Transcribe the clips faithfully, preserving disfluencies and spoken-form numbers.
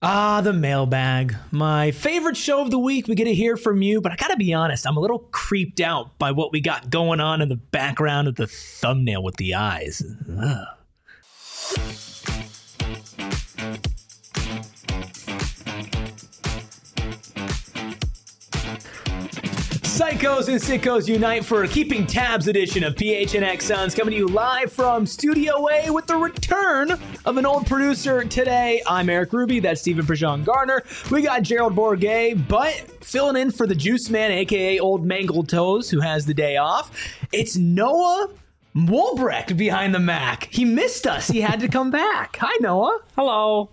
Ah, the mailbag. My favorite show of the week. We get to hear from you, but I gotta be honest, I'm a little creeped out by what we got going on in the background of the thumbnail with the eyes. Ugh. Psychos and Sickos unite for a Keeping Tabs edition of P H N X Suns, coming to you live from Studio A with the return of an old producer today. I'm Eric Ruby, that's Stephen Prejean Garner. We got Gerald Bourguet, but filling in for the Juice Man, aka Old Mangled Toes, who has the day off. It's Noah Wolbrecht behind the Mac. He missed us. He had to come back. Hi, Noah. Hello.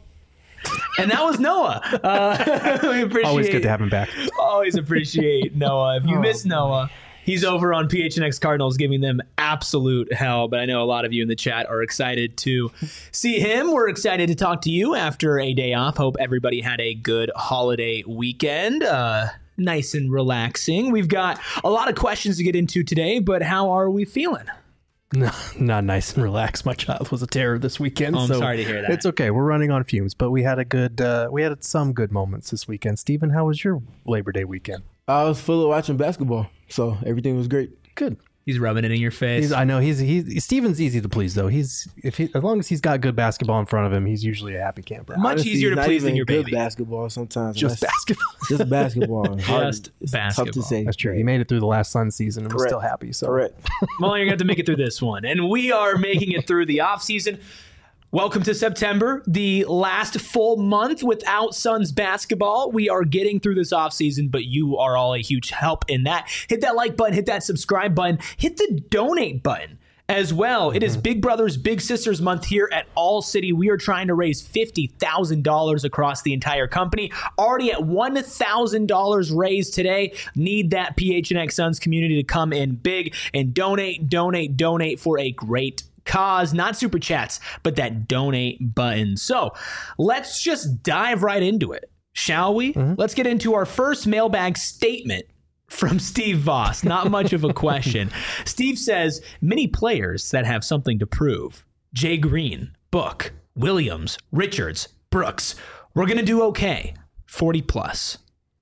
And that was Noah. Uh, we appreciate, always good to have him back. Always appreciate Noah. If you oh, miss Noah, he's over on P H N X Cardinals giving them absolute hell. But I know a lot of you in the chat are excited to see him. We're excited to talk to you after a day off. Hope everybody had a good holiday weekend. Uh, nice and relaxing. We've got a lot of questions to get into today, but how are we feeling? No, not nice and relaxed. My child was a terror this weekend. Oh, I'm so sorry to hear that. It's okay. We're running on fumes, but we had a good, uh, we had some good moments this weekend. Stephen, how was your Labor Day weekend? I was full of watching basketball, so everything was great. Good. He's rubbing it in your face. He's, I know he's he's Steven's easy to please though. He's if he as long as he's got good basketball in front of him, he's usually a happy camper. Much Honestly, easier to not please even than your good baby. Basketball sometimes. Just basketball. Just basketball. Just it's basketball. Tough to say. That's true. He made it through the last Sun season and was Correct. still happy. So Correct. Well, you're going to have to make it through this one. And we are making it through the off season. Welcome to September, the last full month without Suns basketball. We are getting through this offseason, but you are all a huge help in that. Hit that like button, hit that subscribe button, hit the donate button as well. Mm-hmm. It is Big Brothers Big Sisters month here at All City. We are trying to raise fifty thousand dollars across the entire company. Already at one thousand dollars raised today. Need that P H N X Suns community to come in big and donate, donate, donate for a great cause. Not super chats, but that donate button. So let's just dive right into it, shall we? Mm-hmm. Let's get into our first mailbag statement from Steve Voss. Not much of a question. Steve says, many players that have something to prove. Jay Green, Book, Williams, Richards, Brooks. We're going to do okay. forty plus.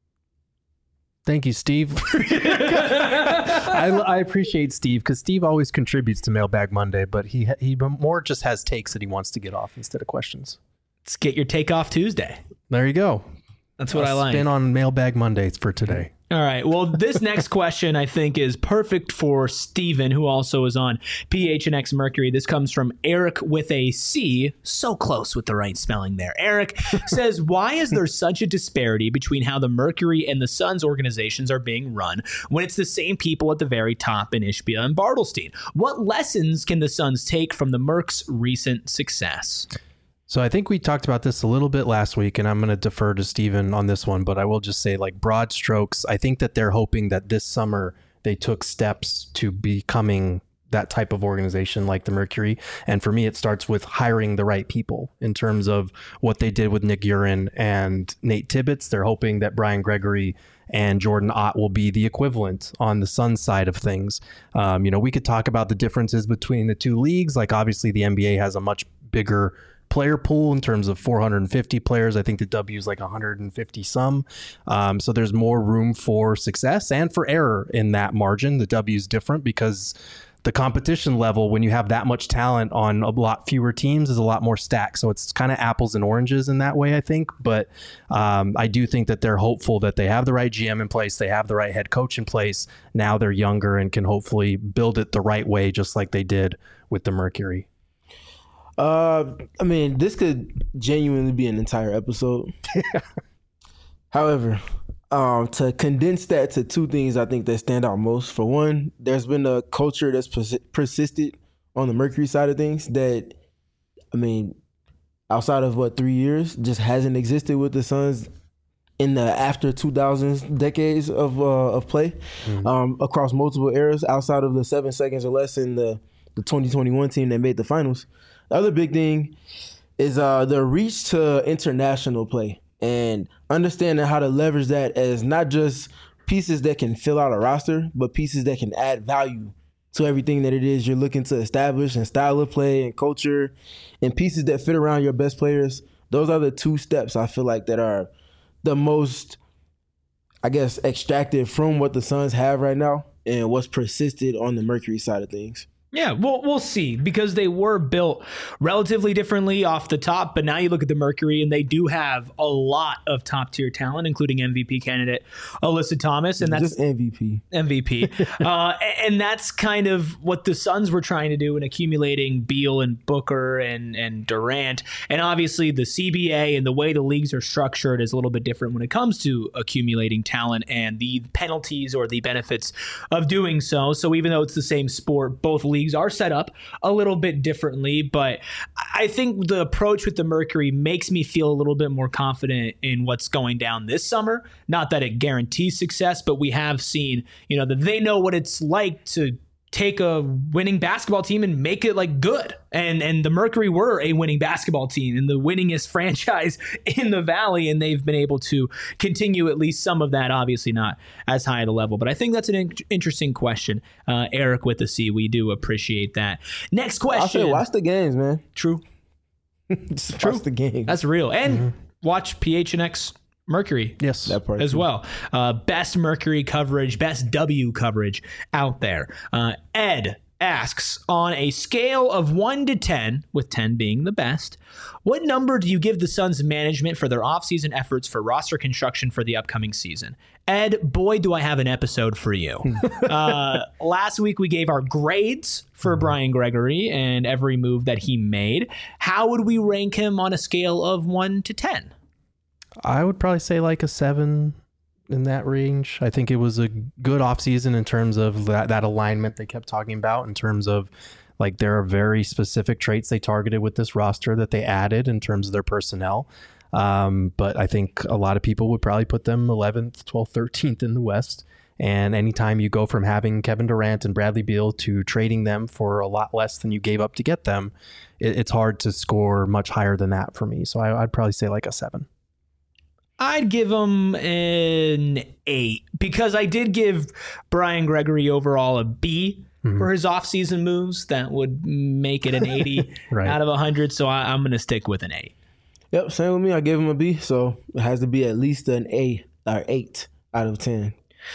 Thank you, Steve. I, I appreciate Steve because Steve always contributes to Mailbag Monday, but he he more just has takes that he wants to get off instead of questions. Let's get your take off Tuesday. There you go. That's what I'll I like. Spin on Mailbag Mondays for today. All right. Well, this next question, I think, is perfect for Steven, who also is on P H N X Mercury. This comes from Eric with a C. So close with the right spelling there. Eric says, why is there such a disparity between how the Mercury and the Suns organizations are being run when it's the same people at the very top in Ishbia and Bartlestein? What lessons can the Suns take from the Mercs' recent success? So I think we talked about this a little bit last week, and I'm going to defer to Steven on this one, but I will just say, like, broad strokes, I think that they're hoping that this summer they took steps to becoming that type of organization like the Mercury. And for me, it starts with hiring the right people in terms of what they did with Nick Urin and Nate Tibbetts. They're hoping that Brian Gregory and Jordan Ott will be the equivalent on the Suns side of things. Um, you know, we could talk about the differences between the two leagues. Like, obviously, the N B A has a much bigger player pool in terms of four hundred fifty players. I think the W is like one hundred fifty some. Um, so there's more room for success and for error in that margin. The W is different because the competition level, when you have that much talent on a lot fewer teams, is a lot more stacked. So it's kind of apples and oranges in that way, I think. But um, I do think that they're hopeful that they have the right G M in place. They have the right head coach in place. Now they're younger and can hopefully build it the right way, just like they did with the Mercury. Uh, I mean, this could genuinely be an entire episode. However, um, to condense that to two things I think that stand out most. For one, there's been a culture that's pers- persisted on the Mercury side of things that, I mean, outside of what, three years, just hasn't existed with the Suns in the after two thousands decades of uh, of play mm-hmm. um, across multiple eras outside of the seven seconds or less in the, the twenty twenty-one team that made the finals. The other big thing is uh, the reach to international play and understanding how to leverage that as not just pieces that can fill out a roster, but pieces that can add value to everything that it is you're looking to establish and style of play and culture and pieces that fit around your best players Those are the two steps I feel like that are the most, I guess, extracted from what the Suns have right now and what's persisted on the Mercury side of things. Yeah, we'll, we'll see, because they were built relatively differently off the top, but now you look at the Mercury and they do have a lot of top tier talent, including M V P candidate Alyssa Thomas, and that's just M V P. M V P. uh, and that's kind of what the Suns were trying to do in accumulating Beal and Booker and, and Durant. And obviously the C B A and the way the leagues are structured is a little bit different when it comes to accumulating talent and the penalties or the benefits of doing so. So even though it's the same sport, both leagues are set up a little bit differently, but I think the approach with the Mercury makes me feel a little bit more confident in what's going down this summer. Not that it guarantees success, but we have seen, you know, that they know what it's like to take a winning basketball team and make it like good. And and the Mercury were a winning basketball team and the winningest franchise in the Valley, and they've been able to continue at least some of that, obviously not as high at a level. But I think that's an in- interesting question. Uh, Eric with the C, we do appreciate that. Next question. I'll say watch the games, man. True. Just True. watch the games. That's real. And Mm-hmm. watch P H N X Mercury. Yes. That part As too. well. Uh, best Mercury coverage, best W coverage out there. Uh, Ed asks, on a scale of one to ten, with ten being the best, what number do you give the Suns management for their offseason efforts for roster construction for the upcoming season? Ed, boy, do I have an episode for you. uh, last week, we gave our grades for Brian Gregory and every move that he made. How would we rank him on a scale of one to ten? I would probably say like a seven in that range. I think it was a good offseason in terms of that, that alignment they kept talking about, in terms of like there are very specific traits they targeted with this roster that they added in terms of their personnel. Um, but I think a lot of people would probably put them eleventh, twelfth, thirteenth in the West. And anytime you go from having Kevin Durant and Bradley Beal to trading them for a lot less than you gave up to get them, it, it's hard to score much higher than that for me. So I, I'd probably say like a seven. I'd give him an eight, because I did give Brian Gregory overall a B mm-hmm. for his offseason moves. That would make it an eighty right. out of one hundred. So I, I'm going to stick with an eight. Yep, same with me. I gave him a B, so it has to be at least an A or eight out of ten.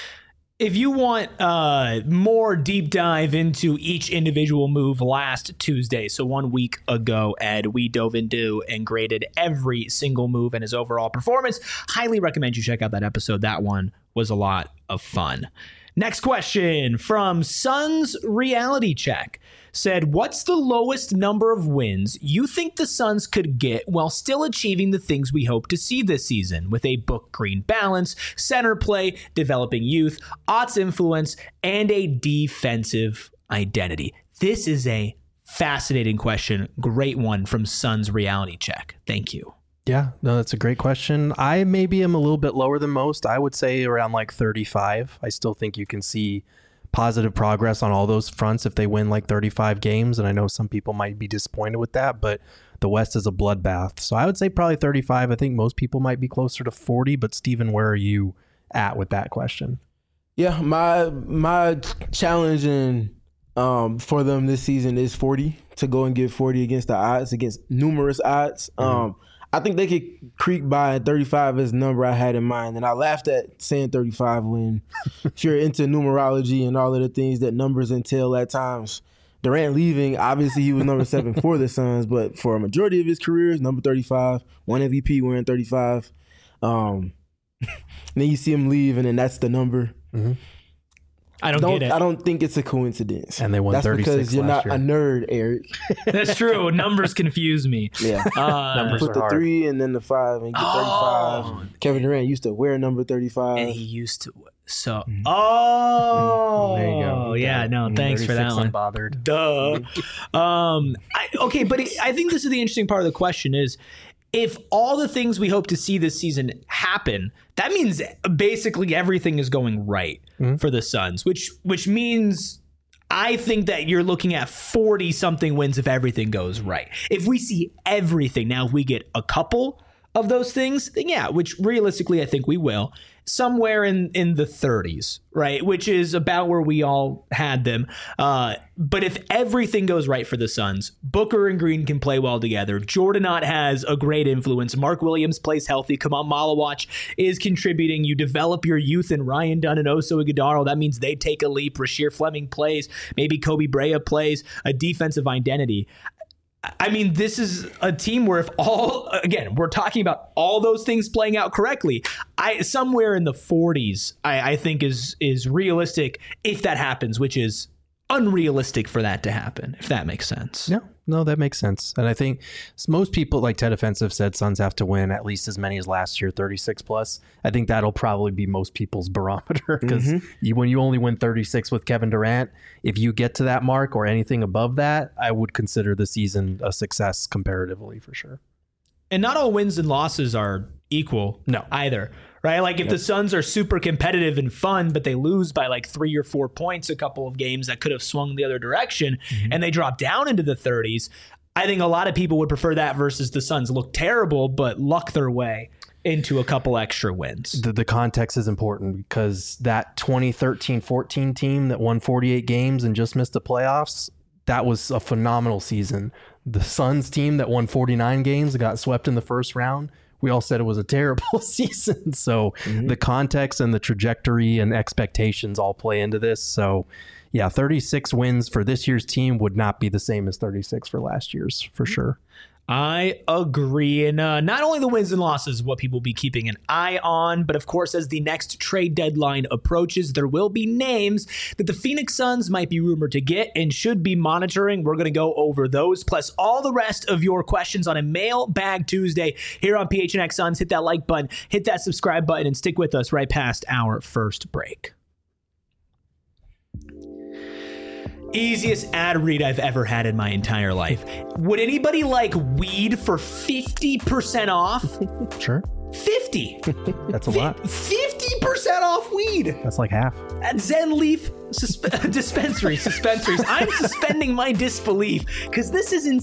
If you want uh, more deep dive into each individual move last Tuesday, so one week ago, Ed, we dove into and graded every single move and his overall performance. Highly recommend you check out that episode. That one was a lot of fun. Next question from Suns Reality Check said, what's the lowest number of wins you think the Suns could get while still achieving the things we hope to see this season, with a book green balance, center play, developing youth, Ott's influence, and a defensive identity? This is a fascinating question. Great one from Suns Reality Check. Thank you. Yeah, no, that's a great question. I maybe am a little bit lower than most. I would say around like thirty-five. I still think you can see positive progress on all those fronts if they win like thirty-five games. And I know some people might be disappointed with that, but the West is a bloodbath. So I would say probably thirty-five. I think most people might be closer to forty, but Steven, where are you at with that question? Yeah, my my challenge in, um, for them this season is forty, to go and get forty against the odds, against numerous odds. Mm-hmm. Um, I think they could creep by thirty-five as the number I had in mind. And I laughed at saying thirty-five when if you're into numerology and all of the things that numbers entail at times. Durant leaving, obviously he was number seven for the Suns, but for a majority of his career, is number thirty-five. One M V P wearing thirty-five. Um, and then you see him leave, and then that's the number. Mm-hmm. I don't, don't get it. I don't think it's a coincidence. And they won That's thirty-six because you're not last a nerd, Eric. That's true. Numbers confuse me. Yeah. Uh, Numbers Put are the hard. three and then the five and get Oh. thirty-five. Kevin Durant used to wear number thirty-five. and he used to. So, Mhm. oh, There you go. yeah, no, thanks for that thirty-six one. Unbothered. Duh. Um, I, okay, but it, I think this is the interesting part of the question is, if all the things we hope to see this season happen, that means basically everything is going right Mhm. for the Suns, which which means I think that you're looking at forty something wins if everything goes right. If we see everything, now if we get a couple of those things, then yeah, which realistically I think we will, somewhere in, in the thirties, right? Which is about where we all had them. Uh, but if everything goes right for the Suns, Booker and Green can play well together. Jordan Ott has a great influence. Mark Williams plays healthy. Kamal Malawach is contributing. You develop your youth in Ryan Dunn and Oso Ighodaro. That means they take a leap. Rasheer Fleming plays. Maybe Kobe Brea plays. A defensive identity. I mean, this is a team where if all, again, we're talking about all those things playing out correctly, I somewhere in the forties, I, I think is is realistic if that happens, which is unrealistic for that to happen, if that makes sense. No, no, that makes sense. And I think most people, like Ted Offensive said, Suns have to win at least as many as last year, thirty-six plus. I think that'll probably be most people's barometer because mm-hmm. you, when you only win thirty-six with Kevin Durant, if you get to that mark or anything above that, I would consider the season a success comparatively for sure. And not all wins and losses are equal no. either. Right? Like if yep. the Suns are super competitive and fun, but they lose by like three or four points a couple of games that could have swung the other direction mm-hmm. and they drop down into the thirties, I think a lot of people would prefer that versus the Suns look terrible, but luck their way into a couple extra wins. The, the context is important because that twenty thirteen fourteen team that won forty-eight games and just missed the playoffs, that was a phenomenal season. The Suns team that won forty-nine games and got swept in the first round, we all said it was a terrible season. So mm-hmm. the context and the trajectory and expectations all play into this. So yeah, thirty-six wins for this year's team would not be the same as thirty-six for last year's for sure. I agree. And uh, not only the wins and losses, what people will be keeping an eye on, but of course, as the next trade deadline approaches, there will be names that the Phoenix Suns might be rumored to get and should be monitoring. We're going to go over those, plus all the rest of your questions on a Mailbag Tuesday here on P H N X Suns. Hit that like button, hit that subscribe button, and stick with us right past our first break. Easiest ad read I've ever had in my entire life. Would anybody like weed for fifty percent off? Sure. fifty. That's a lot. fifty percent off weed. That's like half. At Zen Leaf susp- dispensaries. Dispensaries. I'm suspending my disbelief because this is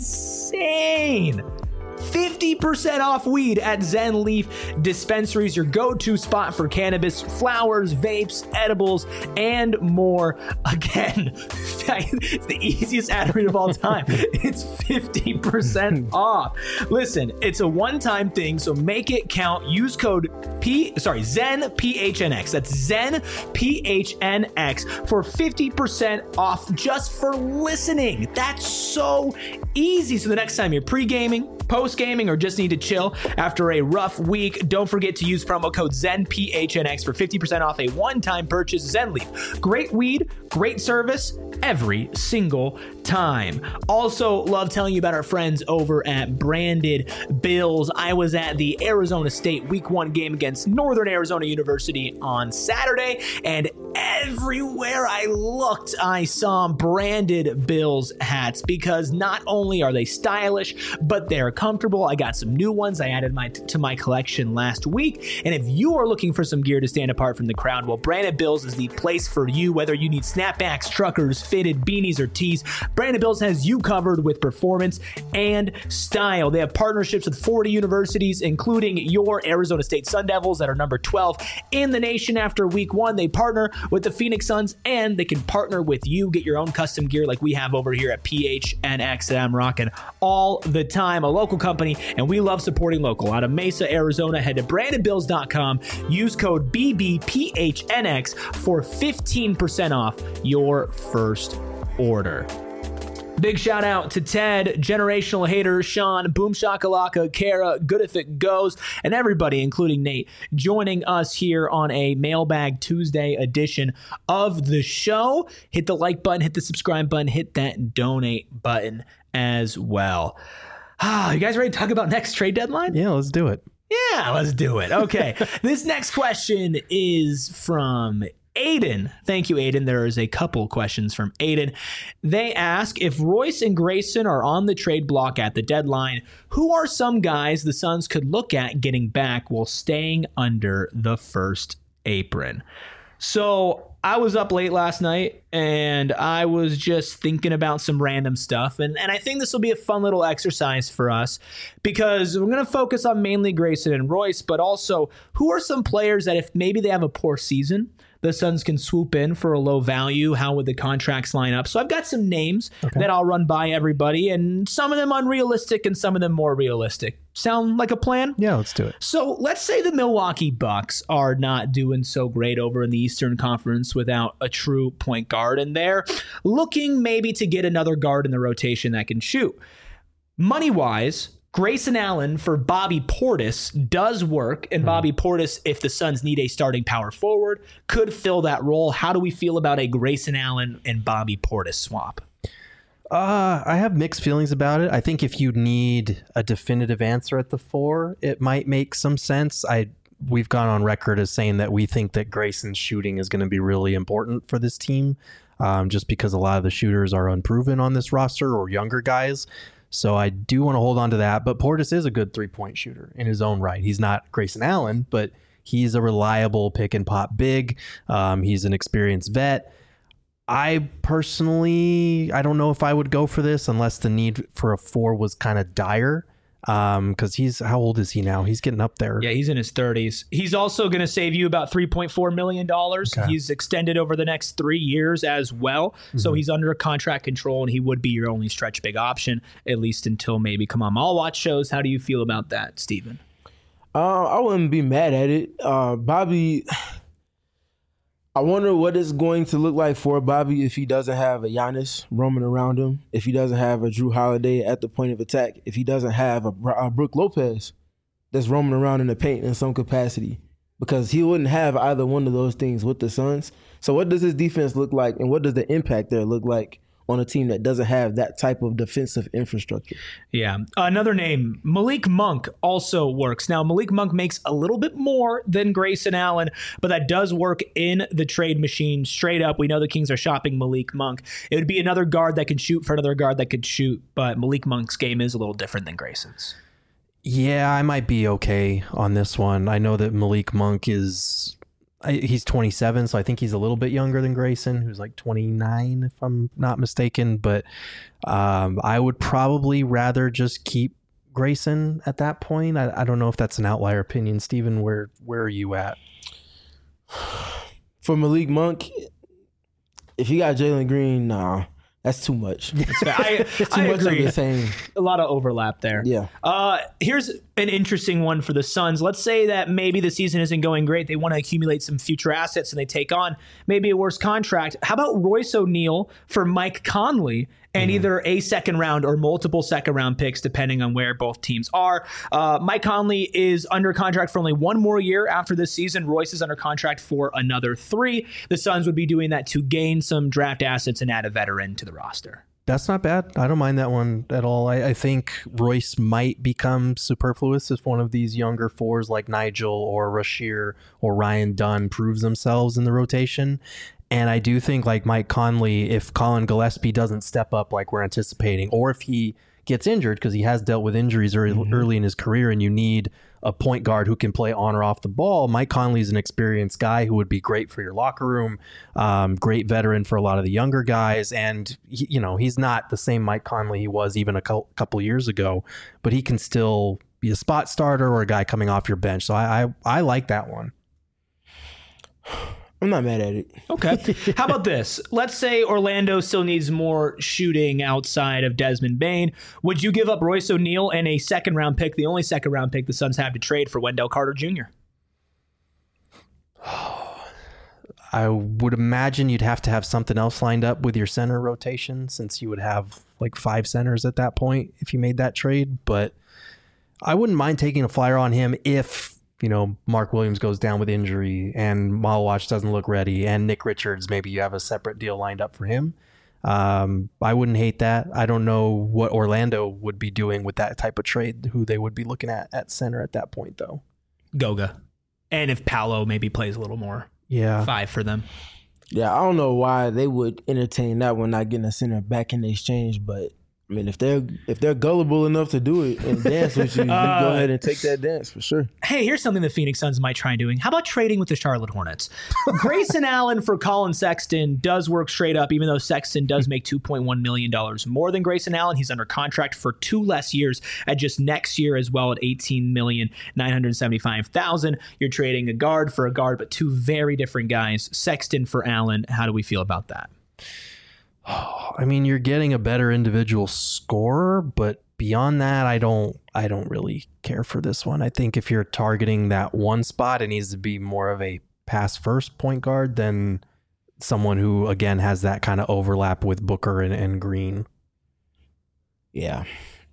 insane. fifty percent off weed at Zen Leaf Dispensaries, your go-to spot for cannabis, flowers, vapes, edibles, and more. Again, it's the easiest ad read of all time. It's fifty percent off. Listen, it's a one-time thing, so make it count. Use code P, sorry, Zen P H N X. That's Zen P H N X for fifty percent off just for listening. That's so easy. So the next time you're pre-gaming, post-gaming, or just need to chill after a rough week, don't forget to use promo code Zen P H N X for fifty percent off a one-time purchase. Zen Leaf. Great weed, great service every single time. Also, love telling you about our friends over at Branded Bills. I was at the Arizona State Week One game against Northern Arizona University on Saturday, and everywhere I looked, I saw Branded Bills hats because not only are they stylish, but they're comfortable. I got some new ones I added my to my collection last week, and if you are looking for some gear to stand apart from the crowd, well, Branded Bills is the place for you. Whether you need snapbacks, truckers, fitted beanies, or tees, Branded Bills has you covered with performance and style. They have partnerships with forty universities, including your Arizona State Sun Devils that are number twelve in the nation after week one. They partner with the Phoenix Suns, and they can partner with you. Get your own custom gear like we have over here at P H N X that I'm rocking all the time. A local company, and we love supporting local. Out of Mesa, Arizona, head to branded bills dot com. Use code B B P H N X for fifteen percent off your first order. Big shout out to Ted, Generational Hater, Sean, Boom Shakalaka, Kara, Good If It Goes, and everybody, including Nate, joining us here on a Mailbag Tuesday edition of the show. Hit the like button, hit the subscribe button, hit that donate button as well. Ah, you guys ready to talk about next trade deadline? Yeah, let's do it. Yeah, let's do it. Okay. This next question is from Aiden. Thank you, Aiden. There is a couple questions from Aiden. They ask, if Royce and Grayson are on the trade block at the deadline, who are some guys the Suns could look at getting back while staying under the first apron? So I was up late last night and I was just thinking about some random stuff. And, and I think this will be a fun little exercise for us because we're going to focus on mainly Grayson and Royce, but also who are some players that if maybe they have a poor season, the Suns can swoop in for a low value. How would the contracts line up? So I've got some names okay. that I'll run by everybody, and some of them unrealistic and some of them more realistic. Sound like a plan? Yeah, let's do it. So let's say the Milwaukee Bucks are not doing so great over in the Eastern Conference without a true point guard, and they're looking maybe to get another guard in the rotation that can shoot. Money-wise, Grayson Allen for Bobby Portis does work, and Bobby Portis, if the Suns need a starting power forward, could fill that role. How do we feel about a Grayson Allen and Bobby Portis swap? Uh, I have mixed feelings about it. I think if you need a definitive answer at the four, it might make some sense. I we've gone on record as saying that we think that Grayson's shooting is going to be really important for this team, um, just because a lot of the shooters are unproven on this roster or younger guys. So I do want to hold on to that. But Portis is a good three-point shooter in his own right. He's not Grayson Allen, but he's a reliable pick-and-pop big. Um, he's an experienced vet. I personally, I don't know if I would go for this unless the need for a four was kind of dire. Um, because he's, how old is he now? He's getting up there. Yeah, he's in his thirties. He's also going to save you about three point four million dollars. Okay. He's extended over the next three years as well. Mm-hmm. So he's under contract control, and he would be your only stretch big option, at least until maybe come on I'll watch shows. How do you feel about that, Steven? Uh, I wouldn't be mad at it. Uh, Bobby, I wonder what it's going to look like for Bobby if he doesn't have a Giannis roaming around him, if he doesn't have a Drew Holiday at the point of attack, if he doesn't have a, a Brook Lopez that's roaming around in the paint in some capacity, because he wouldn't have either one of those things with the Suns. So what does his defense look like, and what does the impact there look like on a team that doesn't have that type of defensive infrastructure? Yeah. Another name, Malik Monk, also works. Now, Malik Monk makes a little bit more than Grayson Allen, but that does work in the trade machine straight up. We know the Kings are shopping Malik Monk. It would be another guard that can shoot for another guard that could shoot, but Malik Monk's game is a little different than Grayson's. Yeah, I might be okay on this one. I know that Malik Monk is... He's twenty-seven, so I think he's a little bit younger than Grayson, who's like twenty-nine, if I'm not mistaken. But um, I would probably rather just keep Grayson at that point. I, I don't know if that's an outlier opinion. Steven, where where are you at? For Malik Monk, if you got Jalen Green, nah. That's too much. I, too I much agree. Of the same. A lot of overlap there. Yeah. Uh, here's an interesting one for the Suns. Let's say that maybe the season isn't going great. They want to accumulate some future assets and they take on maybe a worse contract. How about Royce O'Neal for Mike Conley and mm-hmm. either a second round or multiple second round picks, depending on where both teams are? Uh, Mike Conley is under contract for only one more year after this season. Royce is under contract for another three. The Suns would be doing that to gain some draft assets and add a veteran to the roster. That's not bad. I don't mind that one at all. I, I think Royce might become superfluous if one of these younger fours like Nigel or Rasheer or Ryan Dunn proves themselves in the rotation. And I do think like Mike Conley, if Colin Gillespie doesn't step up like we're anticipating, or if he gets injured, because he has dealt with injuries early, mm-hmm. early in his career, and you need a point guard who can play on or off the ball, Mike Conley is an experienced guy who would be great for your locker room, um, great veteran for a lot of the younger guys. And, he, you know, he's not the same Mike Conley he was even a co- couple years ago, but he can still be a spot starter or a guy coming off your bench. So I, I, I like that one. I'm not mad at it. Okay. How about this? Let's say Orlando still needs more shooting outside of Desmond Bane. Would you give up Royce O'Neal and a second round pick, the only second round pick the Suns have to trade, for Wendell Carter Junior? I would imagine you'd have to have something else lined up with your center rotation, since you would have like five centers at that point if you made that trade. But I wouldn't mind taking a flyer on him if, you know, Mark Williams goes down with injury and Malawach doesn't look ready, and Nick Richards, maybe you have a separate deal lined up for him. Um, I wouldn't hate that. I don't know what Orlando would be doing with that type of trade, who they would be looking at at center at that point, though. Goga. And if Paolo maybe plays a little more. Yeah. Five for them. Yeah, I don't know why they would entertain that one, not getting a center back in the exchange, but I mean, if they're if they're gullible enough to do it and dance with you, you Uh, go ahead and take that dance for sure. Hey, here's something the Phoenix Suns might try doing. How about trading with the Charlotte Hornets? Grayson Allen for Colin Sexton does work straight up, even though Sexton does make two point one million dollars more than Grayson Allen. He's under contract for two less years at just next year as well at eighteen million nine hundred seventy-five thousand dollars. You're trading a guard for a guard, but two very different guys. Sexton for Allen. How do we feel about that? I mean, you're getting a better individual scorer, but beyond that, I don't I don't really care for this one. I think if you're targeting that one spot, it needs to be more of a pass first point guard than someone who, again, has that kind of overlap with Booker and, and Green. Yeah.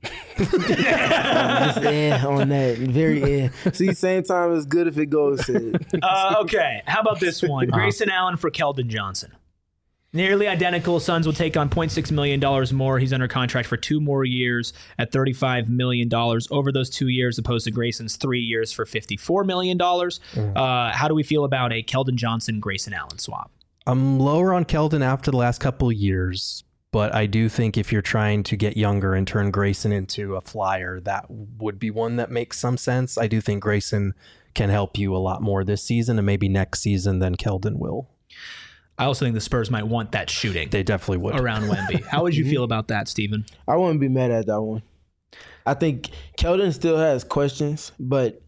Just eh, on that. Very eh. See, same time it's good if it goes to Uh, okay, how about this one? Grayson Allen for Keldon Johnson. Nearly identical. Suns will take on zero point six million dollars more. He's under contract for two more years at thirty-five million dollars over those two years, opposed to Grayson's three years for fifty-four million dollars. Mm. Uh, how do we feel about a Keldon Johnson, Grayson Allen swap? I'm lower on Keldon after the last couple of years, but I do think if you're trying to get younger and turn Grayson into a flyer, that would be one that makes some sense. I do think Grayson can help you a lot more this season and maybe next season than Keldon will. I also think the Spurs might want that shooting. They definitely would. Around Wemby. How would you feel about that, Steven? I wouldn't be mad at that one. I think Keldon still has questions, but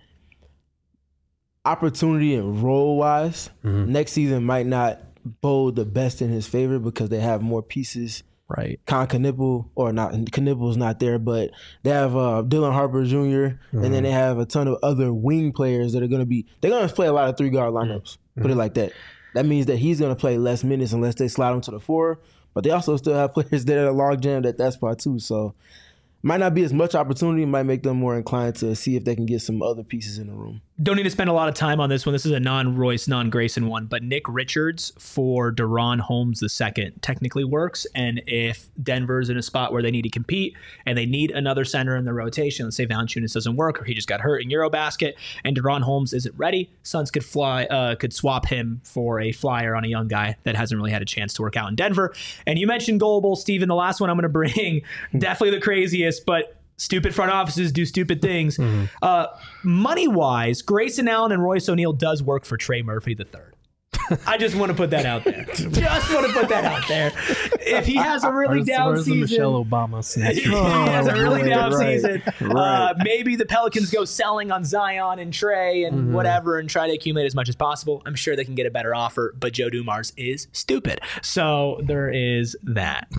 opportunity and role-wise, mm-hmm. next season might not bode the best in his favor because they have more pieces. Right. Con Knipple, or not, Knipple's not there, but they have uh, Dylan Harper Junior, mm-hmm. and then they have a ton of other wing players that are going to be, they're going to play a lot of three-guard lineups, mm-hmm. put it like that. That means that he's going to play less minutes unless they slide him to the four. But they also still have players that are log jammed at that spot too. So might not be as much opportunity, might make them more inclined to see if they can get some other pieces in the room. Don't need to spend a lot of time on this one. This is a non-Royce, non-Grayson one, but Nick Richards for Deron Holmes the second technically works. And if Denver's in a spot where they need to compete and they need another center in the rotation, let's say Valanciunas doesn't work or he just got hurt in Eurobasket and Deron Holmes isn't ready, Suns could fly, uh, could swap him for a flyer on a young guy that hasn't really had a chance to work out in Denver. And you mentioned Gullible, Steven. The last one I'm going to bring, definitely the craziest, but stupid front offices do stupid things. Mm-hmm. Uh, money-wise, Grayson Allen and Royce O'Neal does work for Trey Murphy the third. I just want to put that out there. Just want to put that out there. If he has a really where's, down where's season, the Michelle Obama snatch? if he has a really right, down right, season, right. Uh, maybe the Pelicans go selling on Zion and Trey and mm-hmm. whatever and try to accumulate as much as possible. I'm sure they can get a better offer, but Joe Dumars is stupid. So there is that.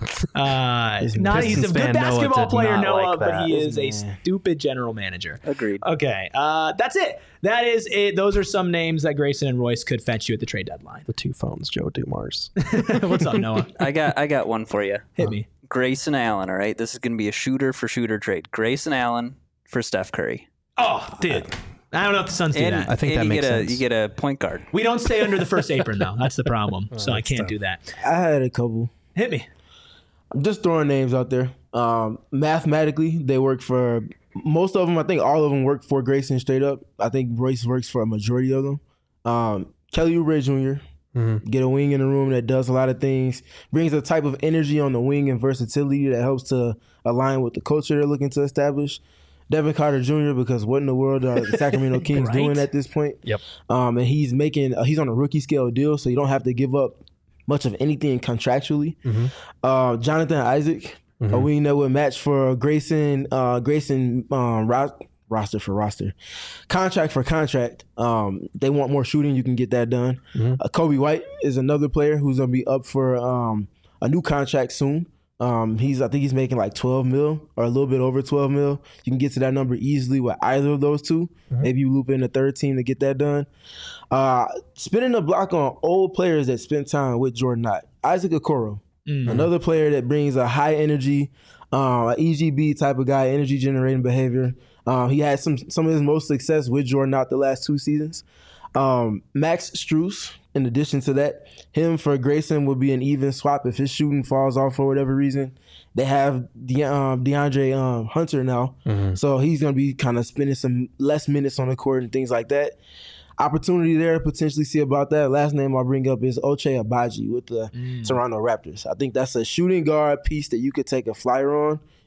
Uh, not he's a good basketball player, Noah, like but he is a stupid general manager. Agreed. Okay, uh, that's it. That is it. Those are some names that Grayson and Royce could fetch you at the trade deadline. The two phones, Joe Dumars. What's up, Noah? I got I got one for you. Hit me. Grayson Allen, all right? This is going to be a shooter for shooter trade. Grayson Allen for Steph Curry. Oh, dude. I don't know if the Suns do and, that. I think and that you makes get a, sense. You get a point guard. We don't stay under the first apron, though. That's the problem. Oh, so I can't tough. do that. I had a couple. Hit me. I'm just throwing names out there. Um, mathematically, they work for most of them. I think all of them work for Grayson straight up. I think Royce works for a majority of them. Um, Kelly Oubre Junior Mm-hmm. Get a wing in the room that does a lot of things, brings a type of energy on the wing and versatility that helps to align with the culture they're looking to establish. Devin Carter Junior, because what in the world are the Sacramento Kings right? doing at this point? Yep. Um, and he's making uh, he's on a rookie scale deal, so you don't have to give up much of anything contractually. Mm-hmm. Uh, Jonathan Isaac, mm-hmm. a wing that would match for Grayson uh, Grayson um, ro- roster for roster, contract for contract. Um, they want more shooting. You can get that done. Mm-hmm. Uh, Kobe White is another player who's gonna be up for um, a new contract soon. Um, he's I think he's making like twelve mil or a little bit over twelve mil. You can get to that number easily with either of those two. Mm-hmm. Maybe you loop in the third team to get that done. Uh, spinning the block on old players that spent time with Jordan Knott. Isaac Okoro, mm-hmm. another player that brings a high energy, uh, E G B type of guy, energy generating behavior. Um, he had some some of his most success with Jordan Knott the last two seasons. Um, Max Strus, in addition to that, him for Grayson would be an even swap if his shooting falls off for whatever reason. They have De- um, DeAndre um, Hunter now, mm-hmm. so he's going to be kind of spending some less minutes on the court and things like that. Opportunity there to potentially see about that. Last name I'll bring up is Ochai Agbaji with the mm. Toronto Raptors. I think that's a shooting guard piece that you could take a flyer on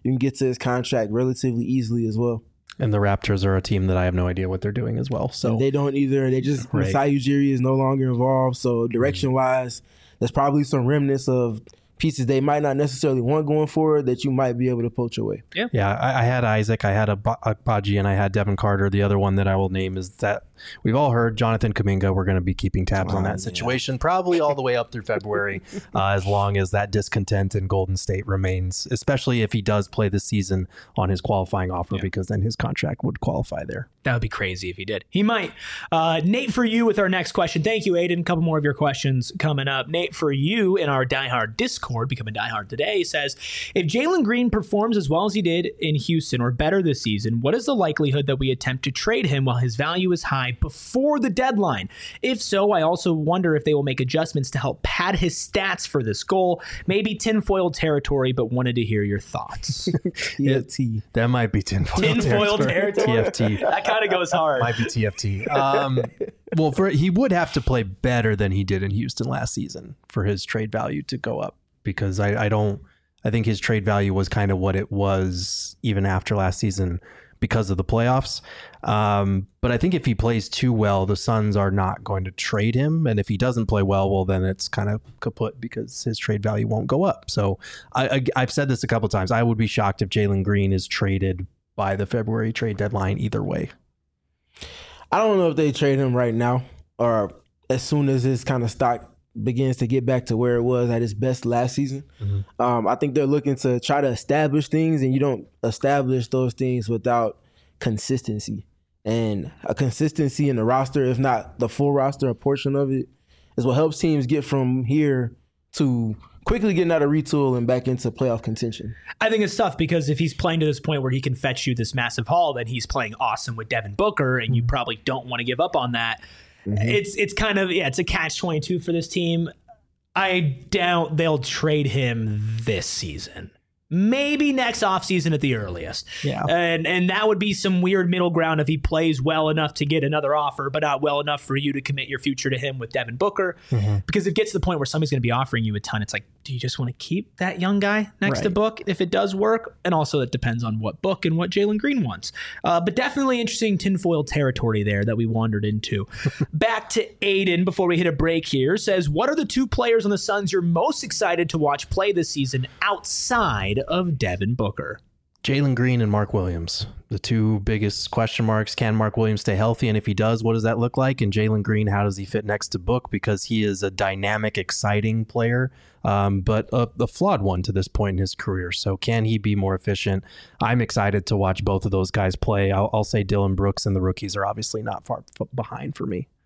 you can get to his contract relatively easily as well. And the Raptors are a team that I have no idea what they're doing as well. So and they don't either. They just Right. Masai Ujiri is no longer involved. So direction wise, there's probably some remnants of pieces they might not necessarily want going forward that you might be able to poach away. Yeah, I, I had Isaac, I had a Baji, and I had Devin Carter. The other one that I will name is that we've all heard Jonathan Kuminga. We're going to be keeping tabs Oh, on that yeah. situation probably all the way up through February, uh, as long as that discontent in Golden State remains, especially if he does play this season on his qualifying offer, Yeah. because then his contract would qualify there. That would be crazy if he did. He might. Uh, Nate, for you with our next question. Thank you, Aiden. A couple more of your questions coming up. Nate, for you in our Die Hard Discord, Become a Die Hard Today, says, if Jalen Green performs as well as he did in Houston or better this season, what is the likelihood that we attempt to trade him while his value is high before the deadline? If so, I also wonder if they will make adjustments to help pad his stats for this goal. Maybe tinfoil territory, but wanted to hear your thoughts. T F T. That might be tinfoil, Tinfoil territory. T F T. That kind of goes hard. Might be T F T. Um, well, for he would have to play better than he did in Houston last season for his trade value to go up, because I, I don't. I think his trade value was kind of what it was even after last season because of the playoffs. Um, but I think if he plays too well, the Suns are not going to trade him. And if he doesn't play well, well, then it's kind of kaput because his trade value won't go up. So I, I, I've said this a couple of times. I would be shocked if Jalen Green is traded by the February trade deadline either way. I don't know if they trade him right now or as soon as his kind of stock begins to get back to where it was at its best last season. Mm-hmm. Um, I think they're looking to try to establish things, and you don't establish those things without consistency. And a consistency in the roster, if not the full roster, a portion of it, is what helps teams get from here to quickly getting out of retool and back into playoff contention. I think it's tough because if he's playing to this point where he can fetch you this massive haul, then he's playing awesome with Devin Booker, and you probably don't want to give up on that. Mm-hmm. It's it's kind of, yeah, it's a catch twenty-two for this team. I doubt they'll trade him this season. Maybe next offseason at the earliest. Yeah. And and that would be some weird middle ground if he plays well enough to get another offer, but not well enough for you to commit your future to him with Devin Booker. Mm-hmm. Because if it gets to the point where somebody's going to be offering you a ton, it's like, do you just want to keep that young guy next right. to Book if it does work? And also it depends on what Book and what Jalen Green wants. Uh, but definitely interesting tinfoil territory there that we wandered into. Back to Aiden before we hit a break here. Says, what are the two players on the Suns you're most excited to watch play this season outside of Devin Booker? Jalen Green and Mark Williams, the two biggest question marks. Can Mark Williams stay healthy? And if he does, what does that look like? And Jalen Green, how does he fit next to Book? Because he is a dynamic, exciting player, um, but a, a flawed one to this point in his career. So can he be more efficient? I'm excited to watch both of those guys play. I'll, I'll say Dylan Brooks and the rookies are obviously not far f- behind for me.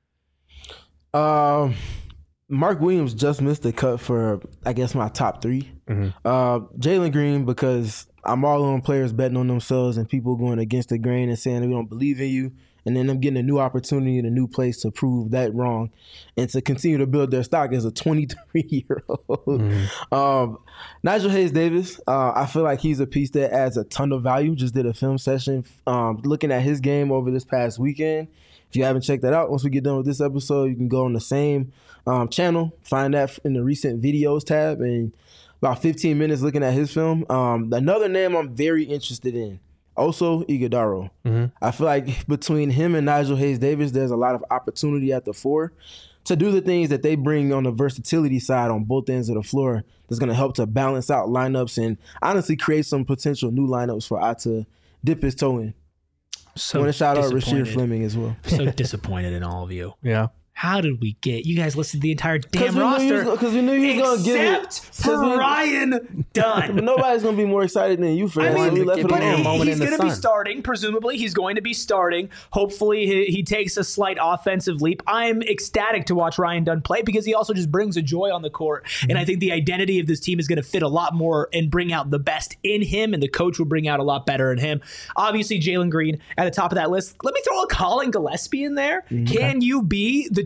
Um, Mark Williams just missed the cut for, I guess, my top three. Mm-hmm. Uh, Jalen Green, because I'm all on players betting on themselves and people going against the grain and saying we don't believe in you, and then them getting a new opportunity in a new place to prove that wrong and to continue to build their stock as a twenty-three-year-old. Mm-hmm. um, Nigel Hayes-Davis, uh, I feel like he's a piece that adds a ton of value. Just did a film session um, looking at his game over this past weekend. If you haven't checked that out, once we get done with this episode, you can go on the same um, channel, find that in the recent videos tab, and about fifteen minutes looking at his film. Um, another name I'm very interested in, also Iguodala. Mm-hmm. I feel like between him and Nigel Hayes-Davis, there's a lot of opportunity at the four to do the things that they bring on the versatility side on both ends of the floor that's going to help to balance out lineups and honestly create some potential new lineups for I to dip his toe in. So I want to shout out Rasheed Fleming as well. So disappointed in all of you. Yeah. How did we get you guys listed the entire damn roster? Because we knew you was going to give it. Except for we, Ryan Dunn. Nobody's going to be more excited than you for that. I mean, so we left it but alone. he, he's going to be starting. Presumably, he's going to be starting. Hopefully, he, he takes a slight offensive leap. I'm ecstatic to watch Ryan Dunn play because he also just brings a joy on the court. Mm-hmm. And I think the identity of this team is going to fit a lot more and bring out the best in him, and the coach will bring out a lot better in him. Obviously, Jalen Green at the top of that list. Let me throw a Colin Gillespie in there. Mm-hmm. Can you be the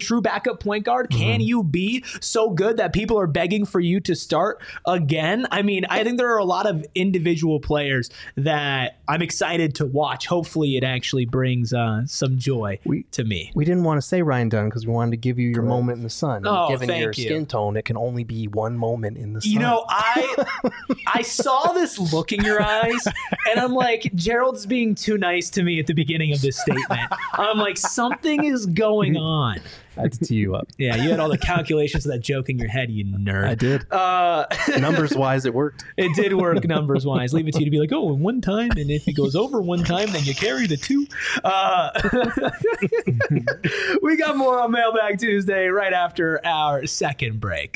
true backup point guard? Can Mm-hmm. you be so good that people are begging for you to start again? I mean, I think there are a lot of individual players that I'm excited to watch. Hopefully it actually brings uh, some joy We- to me. We didn't want to say Ryan Dunn because we wanted to give you your moment in the sun. And Oh, given thank your you. skin tone, it can only be one moment in the sun. You know, I I saw this look in your eyes, and I'm like, Gerald's being too nice to me at the beginning of this statement. I'm like, something is going on. I had to tee you up. Yeah, you had all the calculations of that joke in your head, you nerd. I did. Uh, Numbers wise, it worked. it did work numbers wise. Leave it to you to be like, oh, one time, and if it goes over one time, then you carry the two. Uh, we got more on Mailbag Tuesday right after our second break.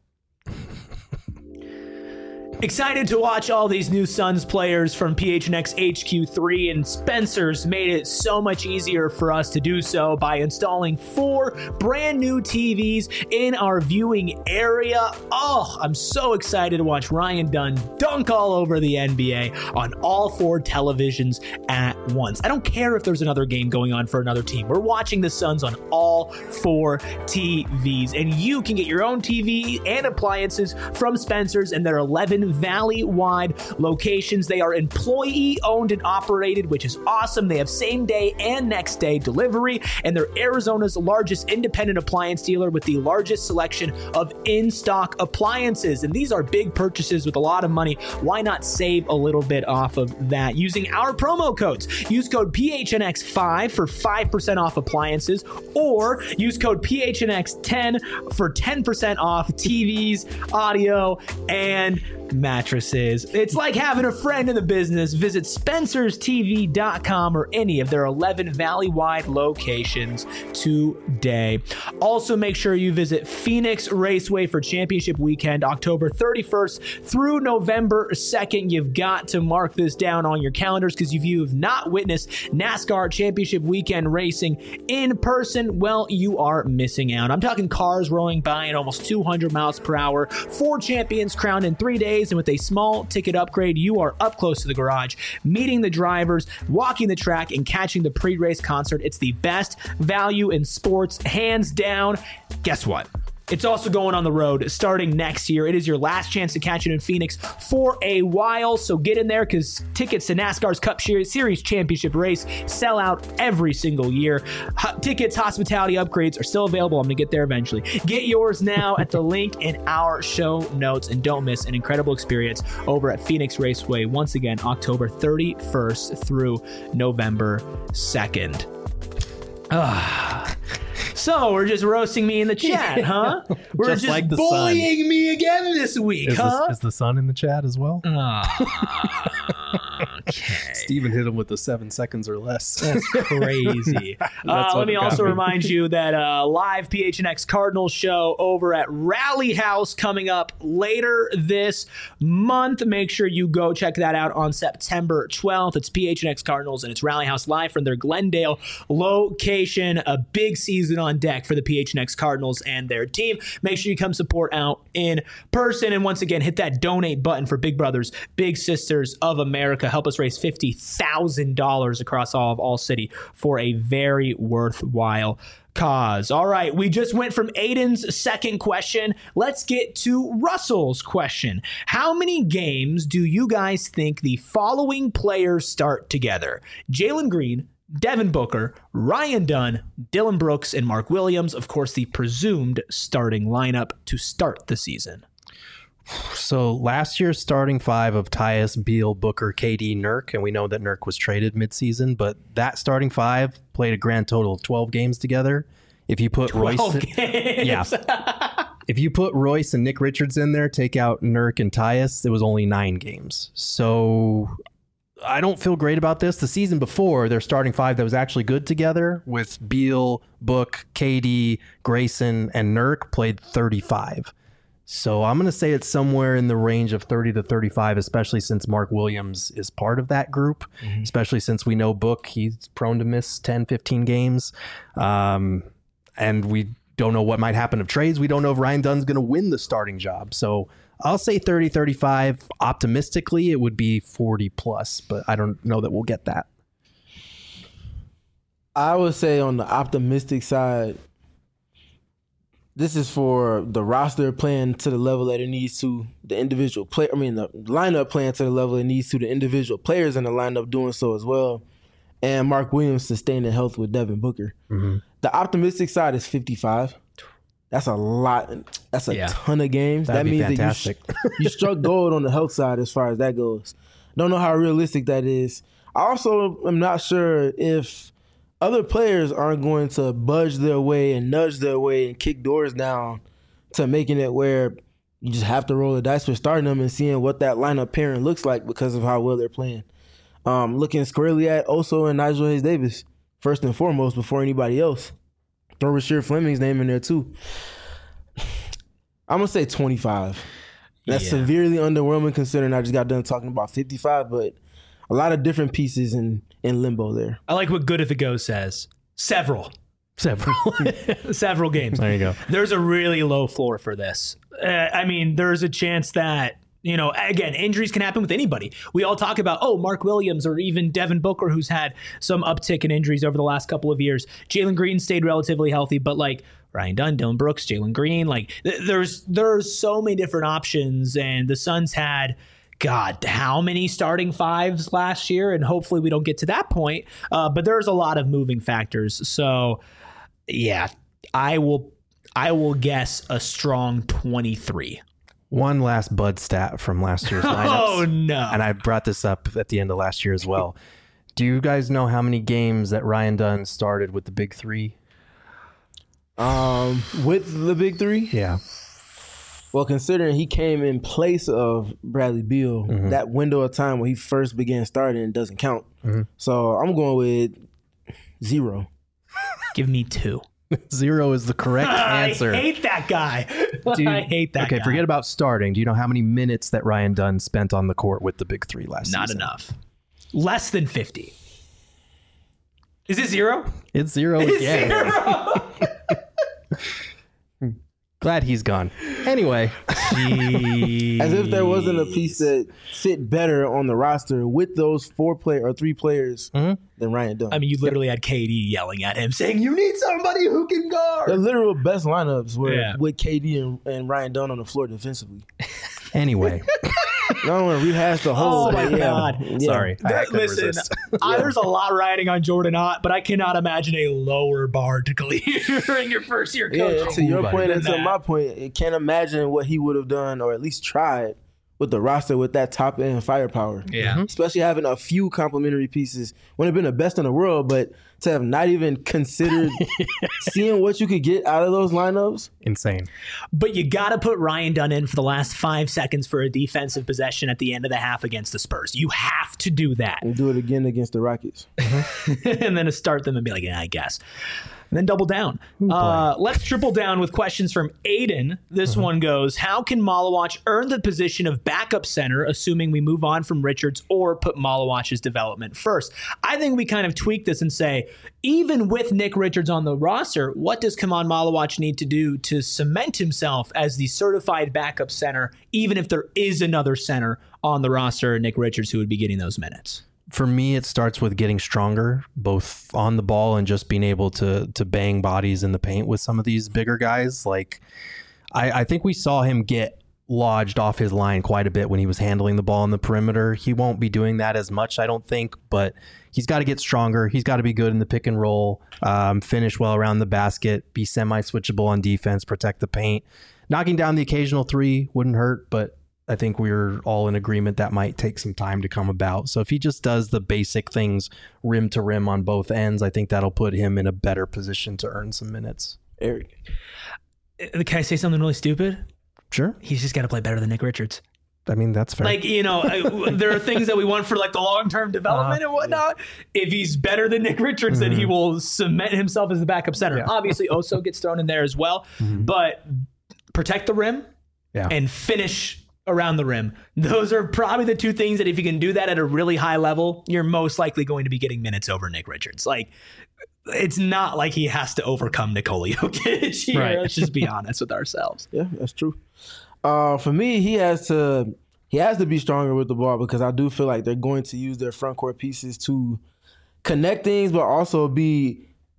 Excited to watch all these new Suns players from P H N X H Q three, and Spencer's made it so much easier for us to do so by installing four brand new T Vs in our viewing area. Oh, I'm so excited to watch Ryan Dunn dunk all over the N B A on all four televisions at once. I don't care if there's another game going on for another team. We're watching the Suns on all four T Vs, and you can get your own T V and appliances from Spencer's and their eleven Valley-wide locations. They are employee-owned and operated, which is awesome. They have same-day and next-day delivery, and they're Arizona's largest independent appliance dealer with the largest selection of in-stock appliances. And these are big purchases with a lot of money. Why not save a little bit off of that using our promo codes? Use code P H N X five for five percent off appliances, or use code P H N X ten for ten percent off T Vs, audio, and mattresses. It's like having a friend in the business. Visit spencers T V dot com or any of their eleven Valley-wide locations today. Also, make sure you visit Phoenix Raceway for Championship Weekend, October thirty-first through November second. You've got to mark this down on your calendars, because if you have not witnessed NASCAR Championship Weekend racing in person, well, you are missing out. I'm talking cars rolling by at almost two hundred miles per hour, four champions crowned in three days, and with a small ticket upgrade, you are up close to the garage, meeting the drivers, walking the track, and catching the pre-race concert. It's the best value in sports, hands down. Guess what? It's also going on the road starting next year. It is your last chance to catch it in Phoenix for a while, so get in there, because tickets to NASCAR's Cup Series Championship race sell out every single year. H- tickets, hospitality upgrades are still available. I'm going to get there eventually. Get yours now at the link in our show notes, and don't miss an incredible experience over at Phoenix Raceway, once again, October thirty-first through November second. Ah. So we're just roasting me in the chat, huh? We're Just just, like the bullying sun. me again this week, Is, huh? the, is the sun in the chat as well? Ah, okay. Steven hit him with the seven seconds or less. That's crazy. uh, what let me got also me. remind you that uh, live P H N X Cardinals show over at Rally House coming up later this month. Make sure you go check that out on September twelfth. It's P H N X Cardinals, and it's Rally House live from their Glendale location. A big season on deck for the P H N X Cardinals and their team. Make sure you come support out in person. And once again, hit that donate button for Big Brothers, Big Sisters of America. Help us raise fifty thousand dollars across all of All City for a very worthwhile cause. All right, we just went from Aiden's second question. Let's get to Russell's question. How many games do you guys think the following players start together? Jalen Green, Devin Booker, Ryan Dunn, Dylan Brooks, and Mark Williams. Of course, the presumed starting lineup to start the season. So last year's starting five of Tyus, Beal, Booker, K D, Nurk, and we know that Nurk was traded midseason, but that starting five played a grand total of twelve games together. If you put Royce, games. yeah, if you put Royce and Nick Richards in there, take out Nurk and Tyus, it was only nine games. So I don't feel great about this. The season before, their starting five that was actually good together with Beal, Book, K D, Grayson, and Nurk played thirty-five. So I'm going to say it's somewhere in the range of thirty to thirty-five, especially since Mark Williams is part of that group, mm-hmm. especially since we know Book, he's prone to miss ten, fifteen games. Um, and we don't know what might happen of trades. We don't know if Ryan Dunn's going to win the starting job. So I'll say thirty, thirty-five. Optimistically, it would be forty plus, but I don't know that we'll get that. I would say on the optimistic side, this is for the roster playing to the level that it needs to, the individual play. I mean, the lineup playing to the level it needs to, the individual players in the lineup doing so as well, and Mark Williams sustaining health with Devin Booker. Mm-hmm. The optimistic side is fifty-five. That's a lot. That's a yeah. ton of games. That'd that means fantastic. that you, you struck gold on the health side as far as that goes. Don't know how realistic that is. I also am not sure if other players aren't going to budge their way and nudge their way and kick doors down to making it where you just have to roll the dice for starting them and seeing what that lineup pairing looks like because of how well they're playing. Um, looking squarely at Oso and Nigel Hayes-Davis, first and foremost, before anybody else. Throw Rasheed Fleming's name in there too. I'm going to say twenty-five. That's yeah. severely underwhelming considering I just got done talking about fifty-five, but a lot of different pieces in, in limbo there. I like what Good If It Goes says. Several. Several. Several games. There you go. There's a really low floor for this. Uh, I mean, there's a chance that, you know, again, injuries can happen with anybody. We all talk about, oh, Mark Williams or even Devin Booker, who's had some uptick in injuries over the last couple of years. Jalen Green stayed relatively healthy, but like Ryan Dunn, Dylan Brooks, Jalen Green, like th- there's there's so many different options, and the Suns had, God, how many starting fives last year? And hopefully we don't get to that point. Uh, but there's a lot of moving factors. So, yeah, I will I will guess a strong twenty-three. One last Bud stat from last year's lineups. Oh, no. And I brought this up at the end of last year as well. Do you guys know how many games that Ryan Dunn started with the big three? Um, with the big three? Yeah. Well, considering he came in place of Bradley Beal, mm-hmm. that window of time when he first began starting doesn't count. Mm-hmm. So I'm going with zero. Give me two. Zero is the correct answer. I hate that guy. You, I hate that okay, guy. forget about starting. Do you know how many minutes that Ryan Dunn spent on the court with the big three last Not season? Not enough. Less than fifty. Is it zero? It's zero it's again. Zero. Glad he's gone. Anyway. Jeez. As if there wasn't a piece that fit better on the roster with those four play or three players mm-hmm. than Ryan Dunn. I mean, you literally had K D yelling at him saying, you need somebody who can guard. The literal best lineups were yeah. with K D and, and Ryan Dunn on the floor defensively. Anyway. I don't want to rehash the whole. Oh my yeah. God! Yeah. Sorry, I, I listen. resist. I, there's a lot riding on Jordan Ott, but I cannot imagine a lower bar to clear in your first year coaching. Yeah, to your Ooh, point and to that. my point, I can't imagine what he would have done or at least tried with the roster with that top end firepower. Yeah, mm-hmm. especially having a few complementary pieces. Wouldn't have been the best in the world, but to have not even considered seeing what you could get out of those lineups. Insane. But you got to put Ryan Dunn in for the last five seconds for a defensive possession at the end of the half against the Spurs. You have to do that. And do it again against the Rockets. And then to start them and be like, yeah, I guess. And then double down. Uh, let's triple down with questions from Aiden. This mm-hmm. one goes, how can Malawach earn the position of backup center, assuming we move on from Richards or put Malawach's development first? I think we kind of tweak this and say, even with Nick Richards on the roster, what does Kaman Malawach need to do to cement himself as the certified backup center, even if there is another center on the roster, Nick Richards, who would be getting those minutes? For me, it starts with getting stronger, both on the ball and just being able to to bang bodies in the paint with some of these bigger guys. Like, I, I think we saw him get lodged off his line quite a bit when he was handling the ball on the perimeter. He won't be doing that as much, I don't think, but he's got to get stronger. He's got to be good in the pick and roll, um, finish well around the basket, be semi-switchable on defense, protect the paint. Knocking down the occasional three wouldn't hurt, but I think we're all in agreement that might take some time to come about. So if he just does the basic things rim to rim on both ends, I think that'll put him in a better position to earn some minutes. Eric. Can I say something really stupid? Sure. He's just got to play better than Nick Richards. I mean, that's fair. Like, you know, there are things that we want for like the long-term development uh, and whatnot. Yeah. If he's better than Nick Richards, mm-hmm. then he will cement himself as the backup center. Yeah. Obviously, Oso gets thrown in there as well, mm-hmm. but protect the rim yeah. and finish around the rim. Those are probably the two things that if you can do that at a really high level, you're most likely going to be getting minutes over Nick Richards. Like, it's not like he has to overcome Nikola Jokic here. Right. Let's just be honest with ourselves. Yeah, that's true. Uh, for me, he has to he has to be stronger with the ball because I do feel like they're going to use their front court pieces to connect things, but also be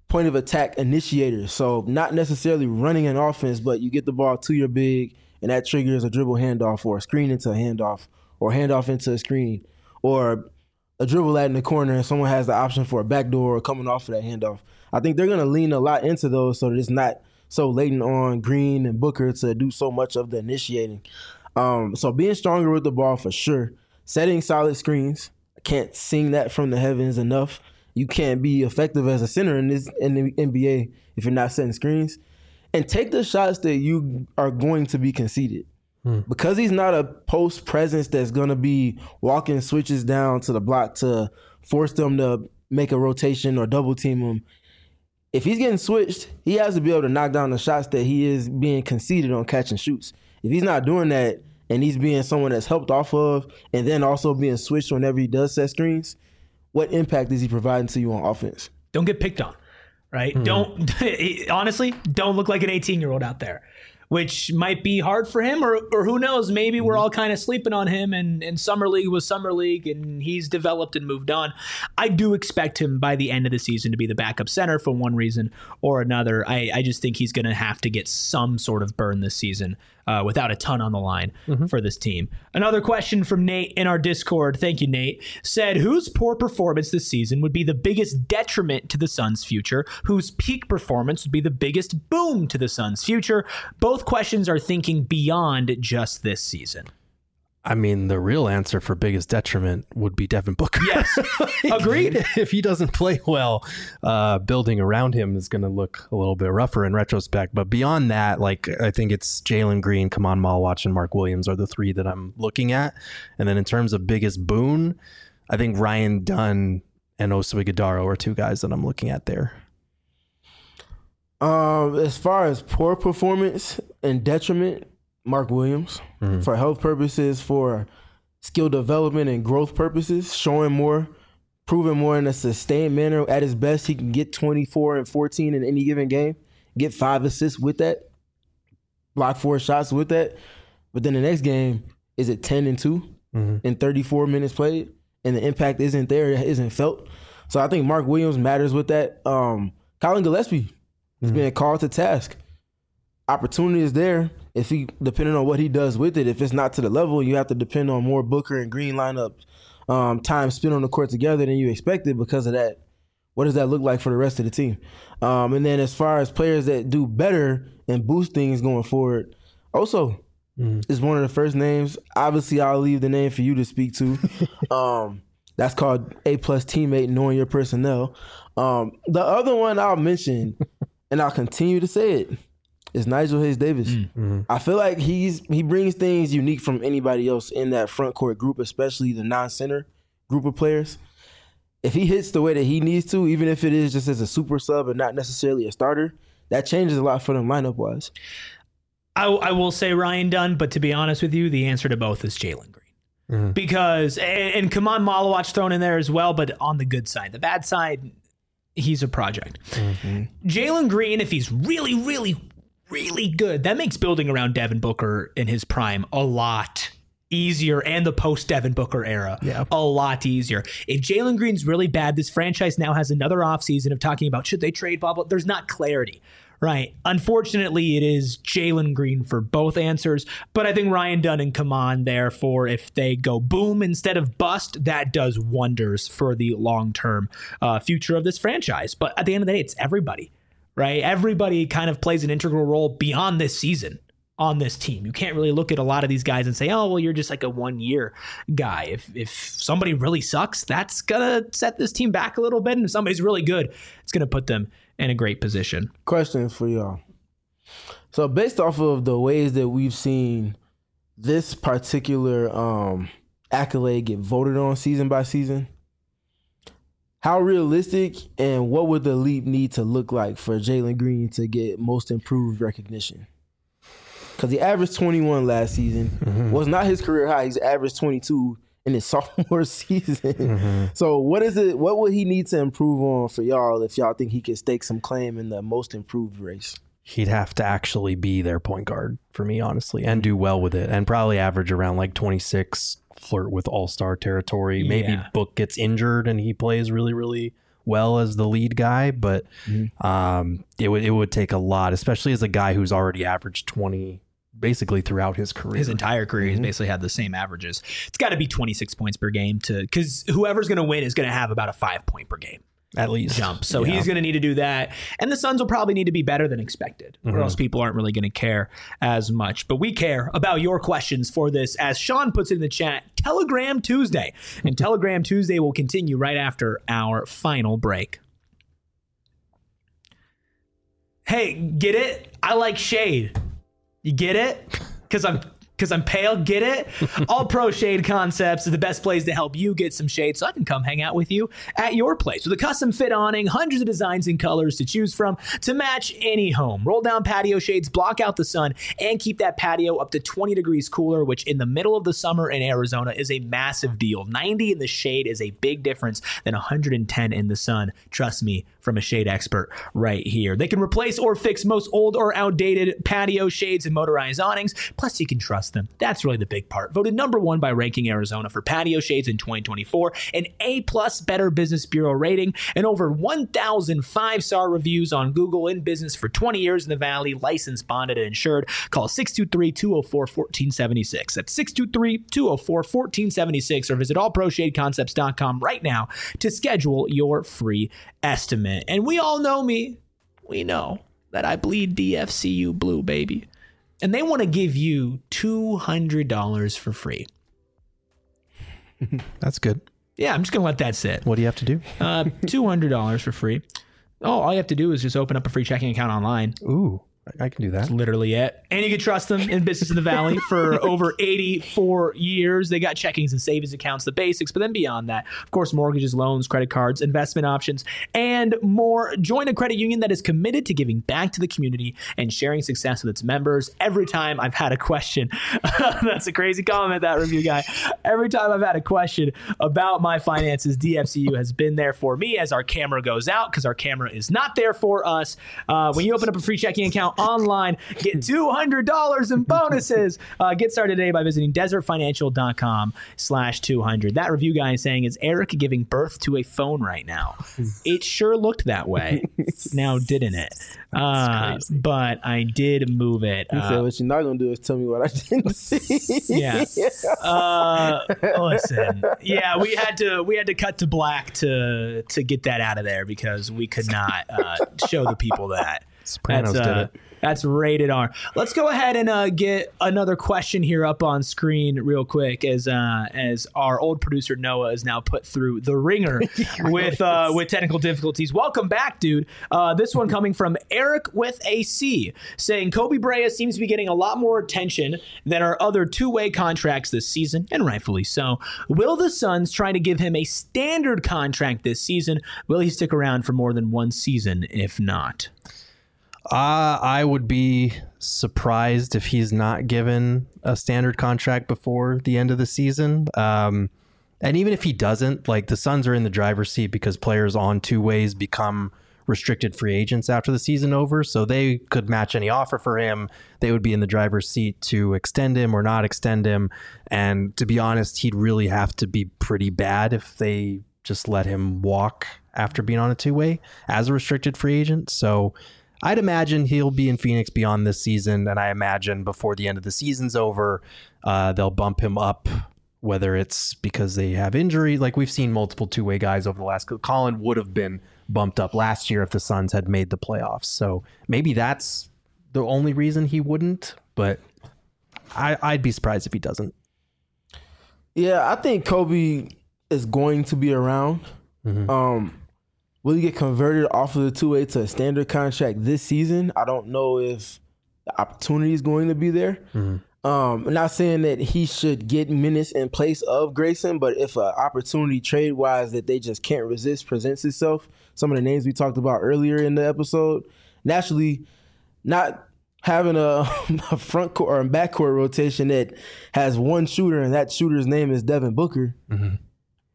point of attack initiators. So not necessarily running an offense, but you get the ball to your big, and that triggers a dribble handoff or a screen into a handoff or handoff into a screen or a dribble out in the corner and someone has the option for a backdoor or coming off of that handoff. I think they're going to lean a lot into those so that it's not so latent on Green and Booker to do so much of the initiating. Um, so being stronger with the ball for sure. Setting solid screens. I can't sing that from the heavens enough. You can't be effective as a center in this in the N B A if you're not setting screens. And take the shots that you are going to be conceded. Hmm. Because he's not a post presence that's going to be walking switches down to the block to force them to make a rotation or double team him. If he's getting switched, he has to be able to knock down the shots that he is being conceded on catch and shoots. If he's not doing that and he's being someone that's helped off of and then also being switched whenever he does set screens, what impact is he providing to you on offense? Don't get picked on, right? Mm-hmm. Don't, honestly, don't look like an eighteen-year-old out there, which might be hard for him, or or who knows, maybe we're all kind of sleeping on him and, and Summer League was Summer League and he's developed and moved on. I do expect him by the end of the season to be the backup center for one reason or another. I, I just think he's going to have to get some sort of burn this season uh, without a ton on the line mm-hmm. for this team. Another question from Nate in our Discord, thank you, Nate, said, whose poor performance this season would be the biggest detriment to the Suns' future? Whose peak performance would be the biggest boom to the Suns' future? Both questions are thinking beyond just this season. I mean, the real answer for biggest detriment would be Devin Booker. Yes, like, agreed. If he doesn't play well, uh, building around him is going to look a little bit rougher in retrospect. But beyond that, like I think it's Jalen Green, Kaman Malwatch, and Mark Williams are the three that I'm looking at. And then in terms of biggest boon, I think Ryan Dunn and Oso Ighodaro are two guys that I'm looking at there. Um, as far as poor performance and detriment, Mark Williams, mm-hmm. for health purposes, for skill development and growth purposes, showing more, proving more in a sustained manner. At his best, he can get twenty-four and fourteen in any given game, get five assists with that, block four shots with that. But then the next game, is it ten and two mm-hmm. in thirty-four minutes played? And the impact isn't there, it isn't felt. So I think Mark Williams matters with that. Um, Colin Gillespie is mm-hmm. being called to task. Opportunity is there. If he, depending on what he does with it, if it's not to the level, you have to depend on more Booker and Green lineups, um, time spent on the court together than you expected because of that. What does that look like for the rest of the team? Um, and then as far as players that do better and boost things going forward, Oso mm. is one of the first names. Obviously, I'll leave the name for you to speak to. um, that's called A-plus teammate, knowing your personnel. Um, the other one I'll mention, and I'll continue to say it, is Nigel Hayes-Davis. Mm-hmm. I feel like he's he brings things unique from anybody else in that front court group, especially the non-center group of players. If he hits the way that he needs to, even if it is just as a super sub and not necessarily a starter, that changes a lot for them lineup-wise. I, I will say Ryan Dunn, but to be honest with you, the answer to both is Jalen Green. Mm-hmm. Because, and, and Kaman Malwatch thrown in there as well, but on the good side. The bad side, he's a project. Mm-hmm. Jalen Green, if he's really, really, really good, that makes building around Devin Booker in his prime a lot easier, and the post Devin Booker era yeah. a lot easier. If Jalen Green's really bad, this franchise now has another offseason of talking about should they trade blah blah. There's not clarity, right? Unfortunately, it is Jalen Green for both answers, but I think Ryan Dunn and Kaman, therefore, if they go boom instead of bust, that does wonders for the long-term uh, future of this franchise. But at the end of the day, it's everybody. Right? Everybody kind of plays an integral role beyond this season on this team. You can't really look at a lot of these guys and say, oh, well, you're just like a one-year guy. If if somebody really sucks, that's going to set this team back a little bit. And if somebody's really good, it's going to put them in a great position. Question for y'all. So based off of the ways that we've seen this particular um, accolade get voted on season by season, how realistic and what would the leap need to look like for Jalen Green to get most improved recognition? Because he averaged twenty-one last season. Mm-hmm. Was not his career high. He's averaged twenty-two in his sophomore season. Mm-hmm. So what is it? What would he need to improve on for y'all if y'all think he could stake some claim in the most improved race? He'd have to actually be their point guard for me, honestly, and do well with it, and probably average around like twenty-six, flirt with all-star territory. Yeah. Maybe Book gets injured and he plays really, really well as the lead guy, but mm-hmm. um, it would it would take a lot, especially as a guy who's already averaged twenty basically throughout his career. His entire career, mm-hmm. he's basically had the same averages. It's got to be twenty-six points per game to because whoever's going to win is going to have about a five point per game. At least jump. So yeah. he's going to need to do that. And the Suns will probably need to be better than expected, or mm-hmm. else people aren't really going to care as much. But we care about your questions for this. As Sean puts it in the chat, Telegram Tuesday. And Telegram Tuesday will continue right after our final break. Hey, get it? I like shade. You get it? Because I'm Because I'm pale, get it? All Pro Shade Concepts is the best place to help you get some shade so I can come hang out with you at your place. With a custom fit awning, hundreds of designs and colors to choose from to match any home. Roll down patio shades, block out the sun, and keep that patio up to twenty degrees cooler, which in the middle of the summer in Arizona is a massive deal. ninety in the shade is a big difference than one hundred ten in the sun. Trust me, from a shade expert right here. They can replace or fix most old or outdated patio shades and motorized awnings. Plus, you can trust them. That's really the big part. Voted number one by Ranking Arizona for patio shades in twenty twenty-four, an A-plus Better Business Bureau rating, and over one thousand five-star reviews on Google. In business for twenty years in the Valley, licensed, bonded, and insured. Call six two three, two oh four, one four seven six. That's six two three, two oh four, one four seven six, or visit all pro shade concepts dot com right now to schedule your free estimate. And we all know me. We know that I bleed D F C U blue, baby. And they want to give you two hundred dollars for free. That's good. Yeah, I'm just going to let that sit. What do you have to do? Uh, two hundred dollars for free. Oh, all you have to do is just open up a free checking account online. Ooh, I can do that. That's literally it. And you can trust them in business in the Valley for over eighty-four years. They got checkings and savings accounts, the basics, but then beyond that, of course, mortgages, loans, credit cards, investment options, and more. Join a credit union that is committed to giving back to the community and sharing success with its members. Every time I've had a question, that's a crazy comment, that review guy. Every time I've had a question about my finances, D F C U has been there for me as our camera goes out, because our camera is not there for us. Uh, when you open up a free checking account online, get two hundred dollars in bonuses. Uh, get started today by visiting desert financial dot com slash two hundred. That review guy is saying, is Eric giving birth to a phone right now? It sure looked that way. Now, didn't it? Uh, but I did move it. He uh, said, what you're not going to do is tell me what I didn't see. Yeah. Uh, listen. Yeah, we had to we had to cut to black to to get that out of there because we could not uh, show the people that. Sopranos that's, uh, did it. That's rated R. Let's go ahead and uh, get another question here up on screen real quick as uh, as our old producer Noah is now put through the ringer really with uh, with technical difficulties. Welcome back, dude. Uh, this one coming from Eric with a C, saying Kobe Bryant seems to be getting a lot more attention than our other two-way contracts this season, and rightfully so. Will the Suns try to give him a standard contract this season? Will he stick around for more than one season if not? Uh, I would be surprised if he's not given a standard contract before the end of the season. Um, and even if he doesn't, like, the Suns are in the driver's seat because players on two ways become restricted free agents after the season over. So they could match any offer for him. They would be in the driver's seat to extend him or not extend him. And to be honest, he'd really have to be pretty bad if they just let him walk after being on a two-way as a restricted free agent. So I'd imagine he'll be in Phoenix beyond this season, and I imagine before the end of the season's over, uh, they'll bump him up, whether it's because they have injury. Like we've seen multiple two-way guys over the last... Colin would have been bumped up last year if the Suns had made the playoffs. So maybe that's the only reason he wouldn't, but I, I'd be surprised if he doesn't. Yeah, I think Kobe is going to be around. Mm-hmm. Um Will he get converted off of the two-way to a standard contract this season? I don't know if the opportunity is going to be there. Mm-hmm. Um, I'm not saying that he should get minutes in place of Grayson, but if an opportunity trade-wise that they just can't resist presents itself, some of the names we talked about earlier in the episode, naturally not having a, a front court or a backcourt rotation that has one shooter and that shooter's name is Devin Booker, mm-hmm.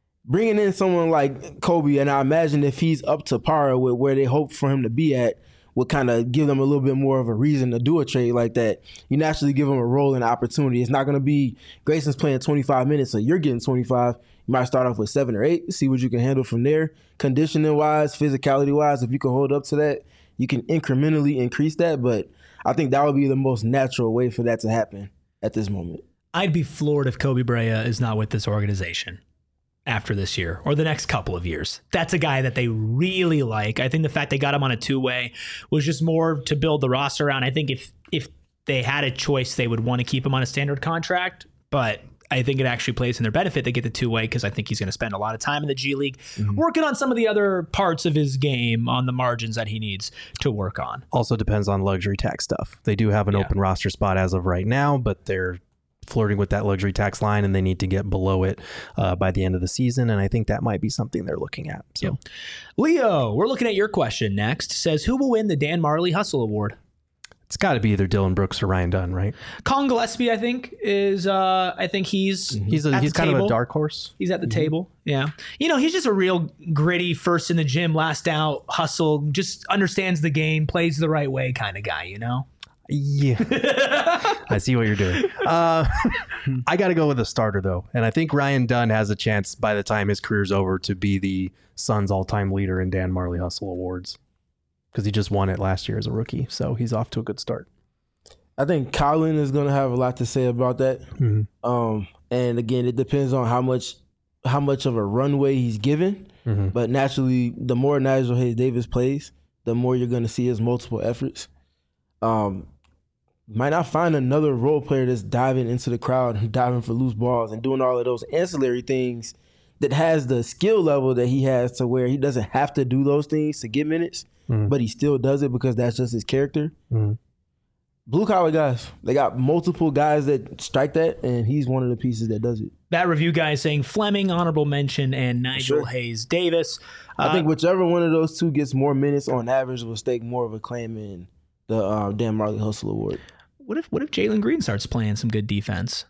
bringing in someone like Kobe, and I imagine if he's up to par with where they hope for him to be at, would kind of give them a little bit more of a reason to do a trade like that. You naturally give them a role and opportunity. It's not going to be Grayson's playing twenty-five minutes, so you're getting twenty-five. You might start off with seven or eight, see what you can handle from there. Conditioning-wise, physicality-wise, if you can hold up to that, you can incrementally increase that. But I think that would be the most natural way for that to happen at this moment. I'd be floored if Kobe Bryant is not with this organization after this year or the next couple of years. That's a guy that they really like. I think the fact they got him on a two-way was just more to build the roster around. I think if if they had a choice, they would want to keep him on a standard contract, but I think it actually plays in their benefit. They get the two-way because I think he's going to spend a lot of time in the G League mm-hmm. working on some of the other parts of his game on the margins that he needs to work on. Also depends on luxury tax stuff. They do have an yeah. open roster spot as of right now, but they're flirting with that luxury tax line and they need to get below it uh, by the end of the season. And I think that might be something they're looking at. So, yep. Leo, we're looking at your question next. Says, who will win the Dan Marley Hustle Award? It's got to be either Dylan Brooks or Ryan Dunn, right? Colin Gillespie, I think, is. Uh, I think he's he's a, he's kind table. of a dark horse. He's at the mm-hmm. table. Yeah, you know, he's just a real gritty, first in the gym, last out, hustle. Just understands the game, plays the right way, kind of guy. You know. Yeah, I see what you're doing. Uh, I got to go with a starter though, and I think Ryan Dunn has a chance by the time his career's over to be the Suns' all-time leader in Dan Marley Hustle Awards. Because he just won it last year as a rookie, so he's off to a good start. I think Colin is going to have a lot to say about that. Mm-hmm. Um, and again, it depends on how much how much of a runway he's given. Mm-hmm. But naturally, the more Nigel Hayes-Davis plays, the more you're going to see his multiple efforts. Um, might not find another role player that's diving into the crowd and diving for loose balls and doing all of those ancillary things that has the skill level that he has to where he doesn't have to do those things to get minutes. Mm-hmm. But he still does it because that's just his character. Mm-hmm. Blue collar guys, they got multiple guys that strike that, and he's one of the pieces that does it. That review guy is saying Fleming, honorable mention, and Nigel sure. Hayes-Davis. Uh, I think whichever one of those two gets more minutes on average will stake more of a claim in the uh, Dan Marley Hustle Award. What if what if Jalen Green starts playing some good defense?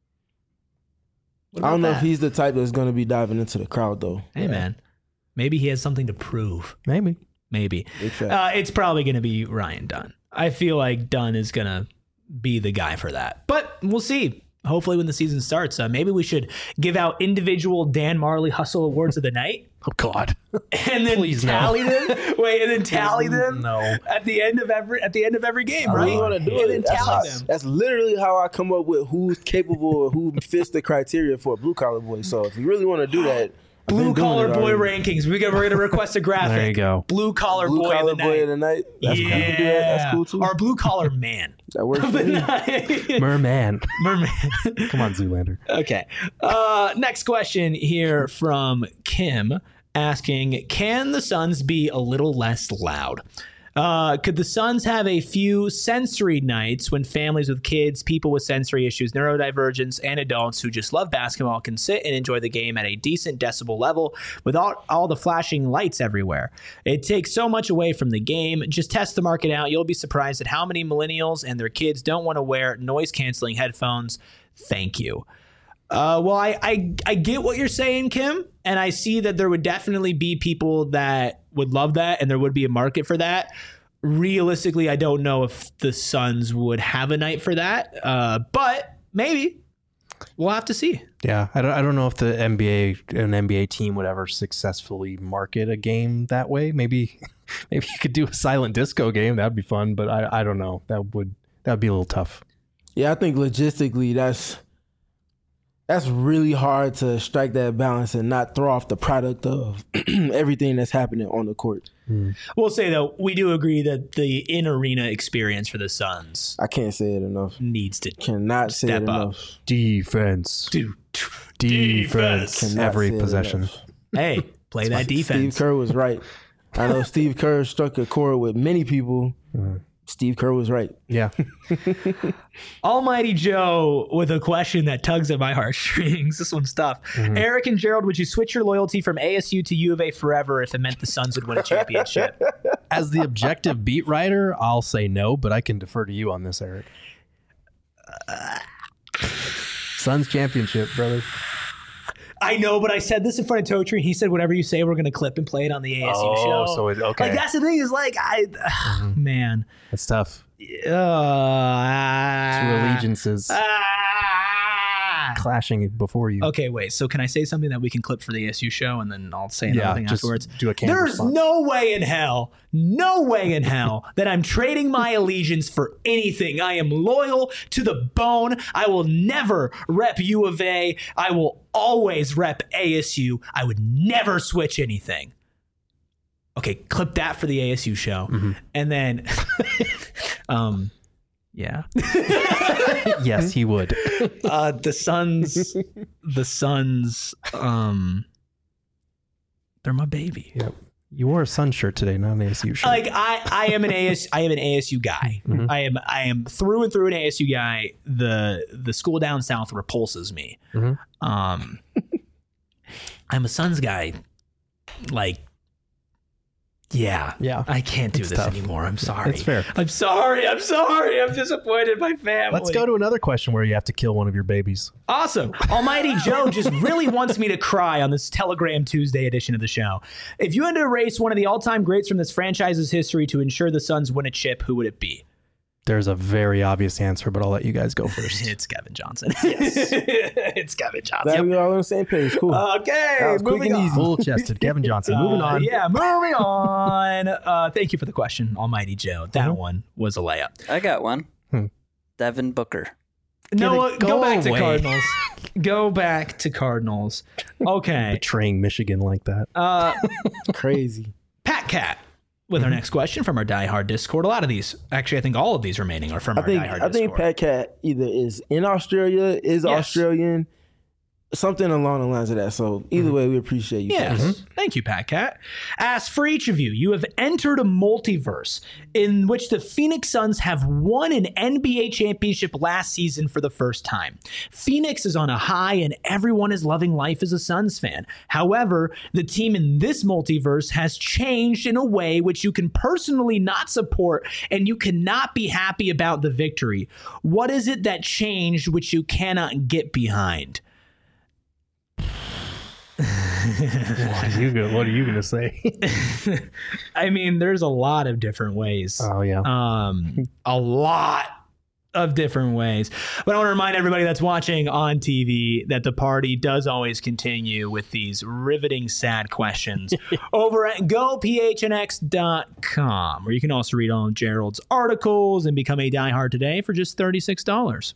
I don't know that? if he's the type that's going to be diving into the crowd, though. Hey, yeah. man. Maybe he has something to prove. Maybe. Maybe. Uh, it's probably going to be Ryan Dunn. I feel like Dunn is going to be the guy for that. But we'll see. Hopefully when the season starts, uh, maybe we should give out individual Dan Marley Hustle Awards of the night. Oh, God. And then Please tally no. them. Wait, and then tally them no. at the end of every at the end of every game, I right? really want to do and it. then That's, tally how, them. that's literally how I come up with who's capable or who fits the criteria for a blue collar boy. So if you really want to do that, Blue collar boy rankings. We got, we're going to request a graphic. There you go. Blue collar blue boy, collar of the, boy night. of the night. That's yeah. cool. You can do that. That's cool too. Or blue collar man. That works for me. Merman. Merman. Come on, Zoolander. Okay. Uh, next question here from Kim asking, can the Suns be a little less loud? Uh, could the Suns have a few sensory nights when families with kids, people with sensory issues, neurodivergence, and adults who just love basketball can sit and enjoy the game at a decent decibel level without all the flashing lights everywhere? It takes so much away from the game. Just test the market out. You'll be surprised at how many millennials and their kids don't want to wear noise-canceling headphones. Thank you. Uh, well, I, I I get what you're saying, Kim, and I see that there would definitely be people that would love that, and there would be a market for that. Realistically, I don't know if the Suns would have a night for that, uh, but maybe. We'll have to see. Yeah, I don't, I don't know if the N B A an N B A team would ever successfully market a game that way. Maybe maybe you could do a silent disco game. That'd be fun, but I I don't know. That would that would be a little tough. Yeah, I think logistically that's. That's really hard to strike that balance and not throw off the product of everything that's happening on the court. Mm. We'll say, though, we do agree that the in-arena experience for the Suns... I can't say it enough. ...needs to Cannot say it up. enough. Defense. Dude. Defense. Cannot Every say possession. Hey, play that defense. Steve Kerr was right. I know Steve Kerr struck a chord with many people. Mm. Steve Kerr was right. Yeah. Almighty Joe with a question that tugs at my heartstrings. This one's tough. Mm-hmm. Eric and Gerald, would you switch your loyalty from A S U to U of A forever if it meant the Suns would win a championship? As the objective beat writer, I'll say no, but I can defer to you on this, Eric. Uh, Suns championship, brother. I know, but I said this in front of Totri. He said, whatever you say, we're going to clip and play it on the A S U Oh, show. so it- okay. Like, that's the thing is, like, I, mm-hmm. man. That's tough. Uh, Two allegiances ah. clashing before you. Okay, wait. So can I say something that we can clip for the A S U show, and then I'll say another Yeah, thing just afterwards? do a canned There's response. no way in hell, no way in hell that I'm trading my allegiance for anything. I am loyal to the bone. I will never rep U of A. I will always rep A S U. I would never switch anything. Okay, clip that for the A S U show, Mm-hmm. and then, um, yeah. Yes, he would. uh the Suns the Suns um they're my baby. Yep. You wore a Sun shirt today, not an A S U shirt. Like I I am an A S I am an A S U guy. Mhm. I am I am through and through an A S U guy. The the school down south repulses me. Mhm. Um I'm a Suns guy. Like yeah. Yeah. I can't do It's this tough. anymore. I'm sorry. It's fair. I'm sorry. I'm sorry. I'm disappointed in my family. Let's go to another question where you have to kill one of your babies. Awesome. Almighty Joe just really wants me to cry on this Telegram Tuesday edition of the show. If you had to erase one of the all-time greats from this franchise's history to ensure the Suns win a chip, who would it be? There's a very obvious answer, but I'll let you guys go first. It's Kevin Johnson. it's Kevin Johnson. That we all on the same page. Cool. Okay, That was quick moving and on. easy. Full-chested Kevin Johnson. Moving Uh, on. yeah, moving on. Uh, thank you for the question, Almighty Joe. That Mhm. one was a layup. I got one. Hmm. Devin Booker. No, it- go, go back to away. Cardinals. Go back to Cardinals. Okay. Betraying Michigan like that. Uh, Crazy. Pat Cat with our next question from our Die Hard Discord. A lot of these, actually, I think all of these remaining are from I our think Die Hard I Discord. think Pat Cat either is in Australia, is Yes. Australian, something along the lines of that. So either way, we appreciate you. Yes. guys. Thank you, Pat Cat. As for each of you, you have entered a multiverse in which the Phoenix Suns have won an N B A championship last season for the first time. Phoenix is on a high and everyone is loving life as a Suns fan. However, the team in this multiverse has changed in a way which you can personally not support and you cannot be happy about the victory. What is it that changed which you cannot get behind? What are you gonna, what are you gonna say? I mean, there's a lot of different ways. Oh yeah. Um, a lot of different ways. But I want to remind everybody that's watching on T V that the party does always continue with these riveting, sad questions over at go p h n x dot com, where you can also read all of Gerald's articles and become a diehard today for just thirty-six dollars.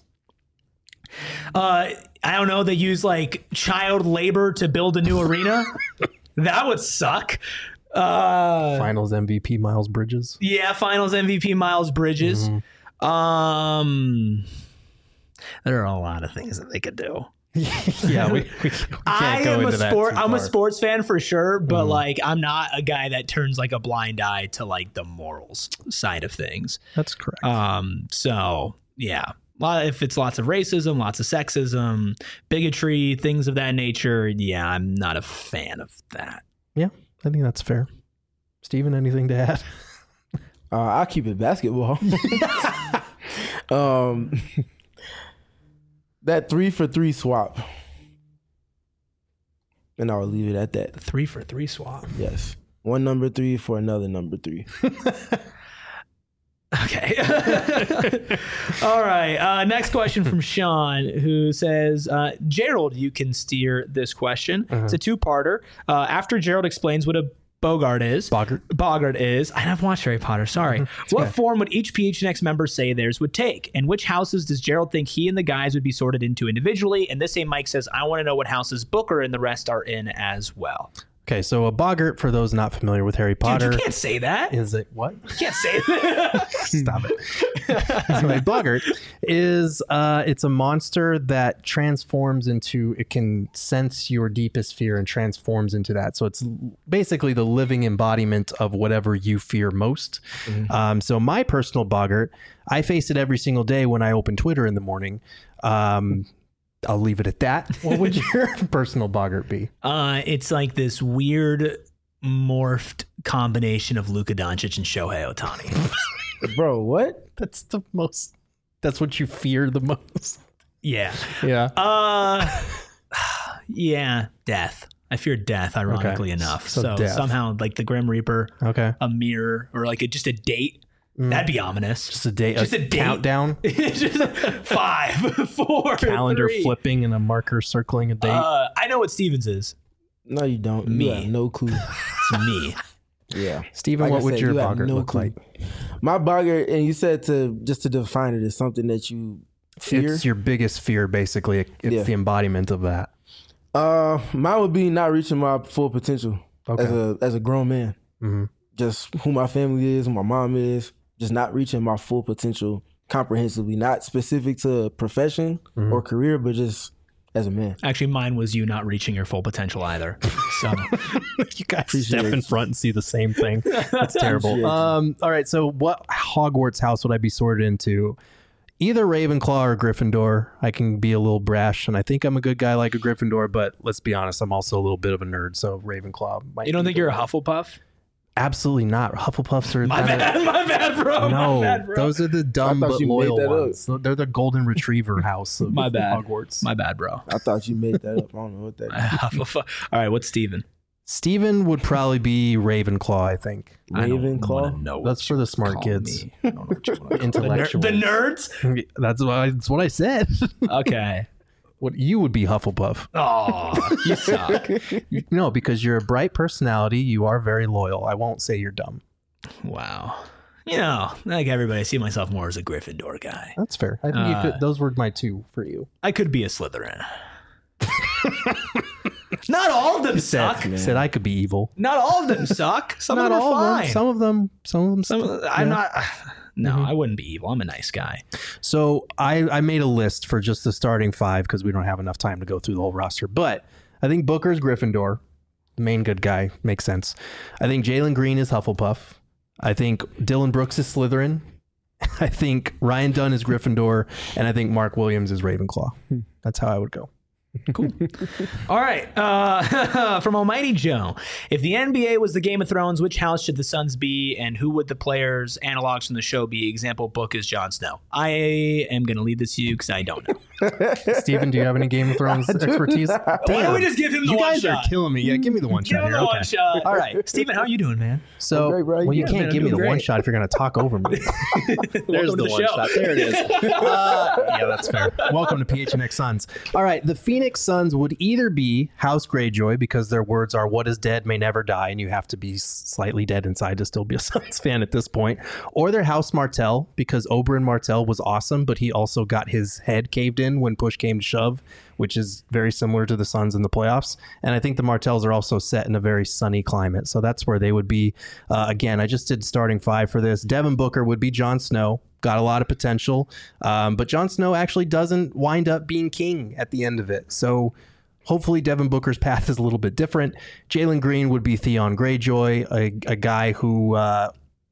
Uh, I don't know. They use like child labor to build a new arena. That would suck. Uh, Finals M V P Miles Bridges. yeah, Finals M V P Miles Bridges. Um, there are a lot of things that they could do. Yeah, we, we, we can't I go am into a that sport. too I'm a far. sports fan for sure, but Mhm. like I'm not a guy that turns like a blind eye to like the morals side of things. That's correct. Um, so yeah. Lot- If it's lots of racism, lots of sexism, bigotry, things of that nature, yeah, I'm not a fan of that. yeah, I think that's fair. Steven, anything to add? Uh, I'll keep it basketball. um, that three for three swap, and I'll leave it at that. Three for three swap. Yes, one number three for another number three. Okay. All right. Uh, next question from Sean, who says, uh, Gerald, you can steer this question. Uh-huh. It's a two-parter. Uh, after Gerald explains what a Bogart is, Bogart. Bogart is, I haven't watched Harry Potter, sorry. What okay. form would each P H N X member say theirs would take? And which houses does Gerald think he and the guys would be sorted into individually? And this same Mike says, I want to know what houses Booker and the rest are in as well. Okay, so a Bogart, for those not familiar with Harry Potter, Dude, you can't say that. is it what? You can't say that. Stop it. Anyway, Bogart is uh, it's a monster that transforms into, it can sense your deepest fear and transforms into that. So it's basically the living embodiment of whatever you fear most. Mm-hmm. Um, so my personal Bogart, I face it every single day when I open Twitter in the morning. Um, I'll leave it at that. What would your personal Bogart be? Uh, it's like this weird morphed combination of Luka Doncic and Shohei Ohtani. Bro, what? That's the most, that's what you fear the most. Yeah. Yeah. Uh, yeah, death. I fear death, ironically Okay. enough. So So, death. somehow, like the Grim Reaper, Okay. a mirror, or like a, just a date. Mm. That'd be ominous. Just a date. Just a, a date. countdown. Just five, four, Calendar three. flipping and a marker circling a date. Uh, I know what Stevens is. No, you don't. Me. You have no clue. It's me. Yeah. Steven, Like I what would said, your you have boggart no look clue. like? My boggart, and you said to just to define it, is something that you fear. It's your biggest fear, basically. It's Yeah. the embodiment of that. Uh, mine would be not reaching my full potential Okay. as a as a grown man. Mhm. Just who my family is, who my mom is, just not reaching my full potential comprehensively, not specific to a profession Mhm. or career, but just as a man. Actually, mine was you not reaching your full potential either. So You guys Appreciate step in it. front and see the same thing. That's terrible. Appreciate you. Um, all right. So, what Hogwarts house would I be sorted into? Either Ravenclaw or Gryffindor. I can be a little brash, and I think I'm a good guy like a Gryffindor. But let's be honest, I'm also a little bit of a nerd. So Ravenclaw. Might you don't be think the you're a one. Hufflepuff? Absolutely not. Hufflepuffs are My kinda- bad, my bad, bro. No, my bad, bro. those are the dumb I thought but you made loyal that up. ones. They're the golden retriever house of My bad. Hogwarts. my bad, bro. I thought you made that up. I don't know what that is. Hufflepuff. All right, what's Steven? Steven would probably be Ravenclaw, I think. I don't Ravenclaw? wanna know what That's for the you smart call kids. me. I don't know what you wanna call- Intellectuals. The, ner- the nerds? That's what I, that's what I said. Okay. What you would be Hufflepuff. Oh, you suck. No, because you're a bright personality. You are very loyal. I won't say you're dumb. Wow. You know, like everybody, I see myself more as a Gryffindor guy. That's fair. I think you Uh, could. Those were my two for you. I could be a Slytherin. Not all of them suck. Said, said I could be evil. Not all of them suck. Some Not of them all are of fine. them. Some of them. Some of them. Some, st- I'm yeah. not. No, Mhm. I wouldn't be evil. I'm a nice guy. So I, I made a list for just the starting five because we don't have enough time to go through the whole roster. But I think Booker's Gryffindor, the main good guy, makes sense. I think Jalen Green is Hufflepuff. I think Dylan Brooks is Slytherin. I think Ryan Dunn is Gryffindor, and I think Mark Williams is Ravenclaw. That's how I would go. All right. Uh, from Almighty Joe. If the N B A was the Game of Thrones, which house should the Suns be, and who would the players' analogs from the show be? Example book is Jon Snow. I am going to leave this to you because I don't know. Steven, do you have any Game of Thrones expertise? Why don't we just give him the You one guys shot? are killing me. Yeah, give me the one Give shot him here. the Okay. one shot. All right. Steven, how are you doing, man? So, great, bro. well, you Yeah, can't man, give me I'm the doing one great. shot if you're going to talk over me. There's Welcome to the the one show. shot. There it is. Uh, yeah, that's fair. Welcome to P H N X Suns. All right, the Phoenix Suns would either be House Greyjoy because their words are "What is dead may never die," and you have to be slightly dead inside to still be a Suns fan at this point, or they're House Martell because Oberyn Martell was awesome, but he also got his head caved in when push came to shove, which is very similar to the Suns in the playoffs. And I think the Martells are also set in a very sunny climate, so that's where they would be. Uh, again, I just did starting five for this. Devin Booker would be Jon Snow. Got a lot of potential, um, but Jon Snow actually doesn't wind up being king at the end of it. So hopefully Devin Booker's path is a little bit different. Jalen Green would be Theon Greyjoy, a, a guy who uh,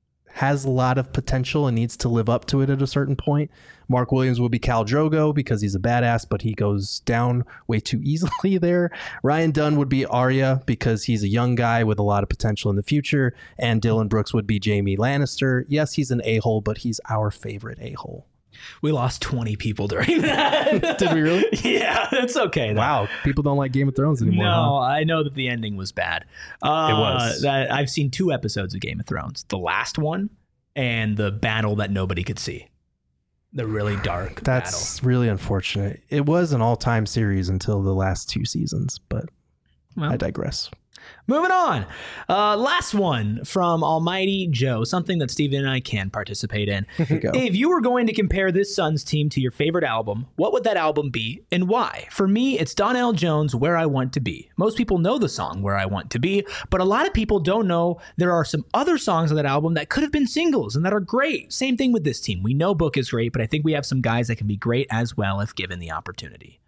has a lot of potential and needs to live up to it at a certain point. Mark Williams would be Khal Drogo because he's a badass, but he goes down way too easily there. Ryan Dunn would be Arya because he's a young guy with a lot of potential in the future. And Dylan Brooks would be Jaime Lannister. Yes, he's an a-hole, but he's our favorite a-hole. We lost twenty people during that. Did we really? Yeah, it's okay. though. Wow, people don't like Game of Thrones anymore. No, huh? I know that the ending was bad. Uh, It was. That I've seen two episodes of Game of Thrones. The last one and the battle that nobody could see. The really dark That's really unfortunate. It was an all-time series until the last two seasons, but Well. I digress. Moving on. Uh, last one from Almighty Joe, something that Steven and I can participate in. Here we go. If you were going to compare this Suns team to your favorite album, what would that album be and why? For me, it's Donnell Jones' Where I Want to Be. Most people know the song Where I Want to Be, but a lot of people don't know there are some other songs on that album that could have been singles and that are great. Same thing with this team. We know Book is great, but I think we have some guys that can be great as well if given the opportunity.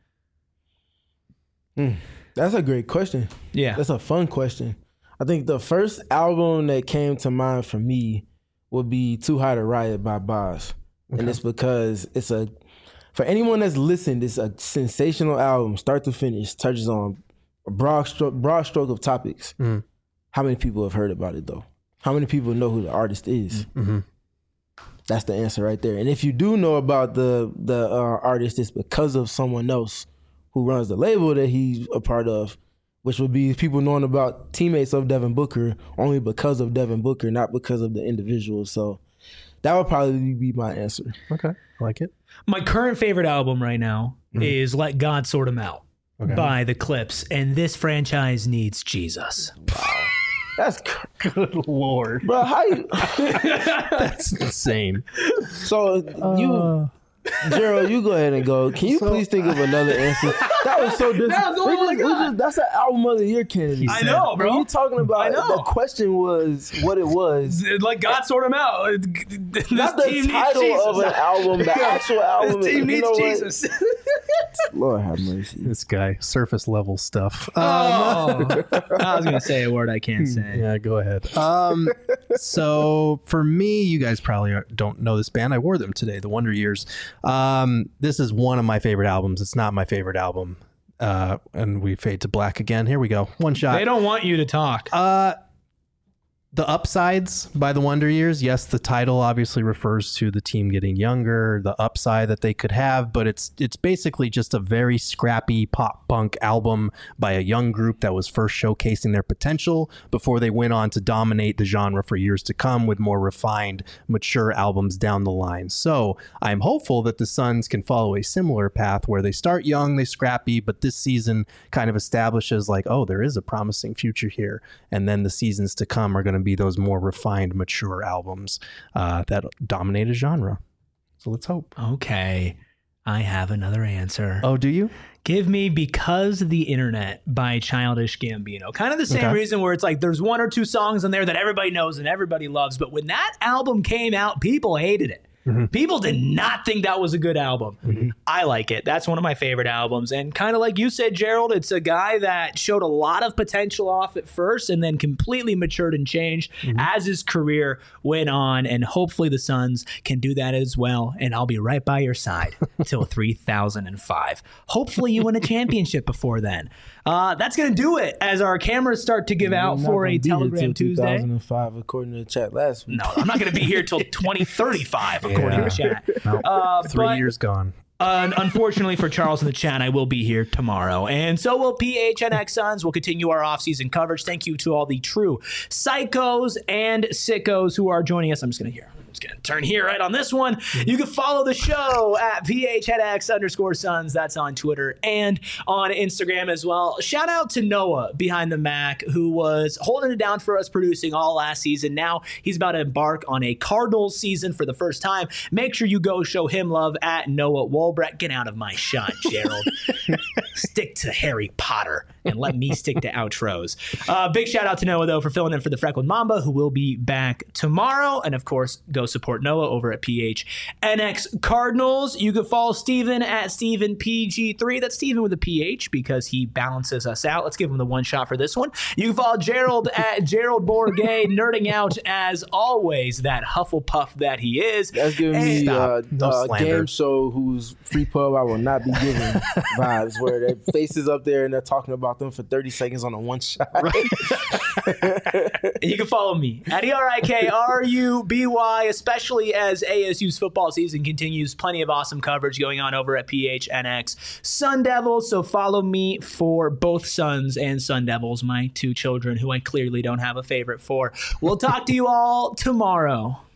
Mm, that's a great question. Yeah. That's a fun question. I think the first album that came to mind for me would be Too High to Riot by Boz. And it's because it's a, for anyone that's listened, it's a sensational album, start to finish, touches on a broad stroke, broad stroke of topics. Mm. How many people have heard about it though? How many people know who the artist is? Mm-hmm. That's the answer right there. And if you do know about the the uh, artist, it's because of someone else who runs the label that he's a part of, which would be people knowing about teammates of Devin Booker only because of Devin Booker, not because of the individual. So that would probably be my answer. Okay, I like it. My current favorite album right now mm. is Let God Sort 'Em Out okay. by The Clips, and this franchise needs Jesus. Wow. That's good Lord. Bro, how you... That's insane. So you... Uh... Gerald, you go ahead and go. Can you so, please think of another answer? That was so disrespectful. That's an album of the year candidate. I know, bro. When you talking about the question was what it was. Like God sort him out. This Not the title of an album, the actual album. This team needs Jesus. Lord have mercy. This guy, surface level stuff. Oh, um, I was gonna say a word I can't say. Yeah, go ahead. Um, so for me, you guys probably don't know this band. I wore them today, the Wonder Years. Um, this is one of my favorite albums. It's not my favorite album. Uh, and we fade to black again. Here we go. One shot. They don't want you to talk. Uh, The Upsides by the Wonder Years. Yes, the title obviously refers to the team getting younger, the upside that they could have, but it's it's basically just a very scrappy pop punk album by a young group that was first showcasing their potential before they went on to dominate the genre for years to come with more refined, mature albums down the line. So I'm hopeful that the Suns can follow a similar path where they start young, they scrappy, but this season kind of establishes like, oh, there is a promising future here. And then the seasons to come are going to be those more refined, mature albums uh, that dominate a genre. So let's hope. Okay. I have another answer. Oh, do you? Give me Because the Internet by Childish Gambino. Kind of the same Okay. reason where it's like there's one or two songs on there that everybody knows and everybody loves. But when that album came out, people hated it. Mm-hmm. People did not think that was a good album. Mm-hmm. I like it. That's one of my favorite albums. And kind of like you said, Gerald, it's a guy that showed a lot of potential off at first and then completely matured and changed mm-hmm. as his career went on. And hopefully the Suns can do that as well. And I'll be right by your side till three thousand five. Hopefully you win a championship before then. Uh, that's going to do it as our cameras start to give You're out for a Telegram Tuesday. two thousand five, according to the chat last week. No, I'm not going to be here till twenty thirty-five, according Yeah. to chat. No, Uh, three but, years gone. Uh, unfortunately for Charles in the chat, I will be here tomorrow. And so will P H N X Suns. We'll continue our off-season coverage. Thank you to all the true psychos and sickos who are joining us. I'm just going to hear. I'm just going to turn here right on this one. You can follow the show at P H N X underscore Suns. That's on Twitter and on Instagram as well. Shout out to Noah behind the Mac, who was holding it down for us producing all last season. Now he's about to embark on a Cardinals season for the first time. Make sure you go show him love at Noah Wolbrecht. Get out of my shot, Gerald. Stick to Harry Potter and let me stick to outros. Uh, big shout out to Noah, though, for filling in for the Freckled Mamba, who will be back tomorrow. And, of course, go support Noah over at P H N X Cardinals. You can follow Steven at Steven P G three. That's Steven with a P H because he balances us out. Let's give him the one shot for this one. You can follow Gerald at Gerald Bourget, nerding out as always, that Hufflepuff that he is. That's giving And- me uh, No uh, slander. game show whose free pub I will not be giving vibes where their faces up there and they're talking about them for thirty seconds on a one shot. And you can follow me at E R I K R U B Y, especially as A S U's football season continues. Plenty of awesome coverage going on over at P H N X Sun Devils. So follow me for both Suns and Sun Devils, my two children who I clearly don't have a favorite for. We'll talk to you all tomorrow.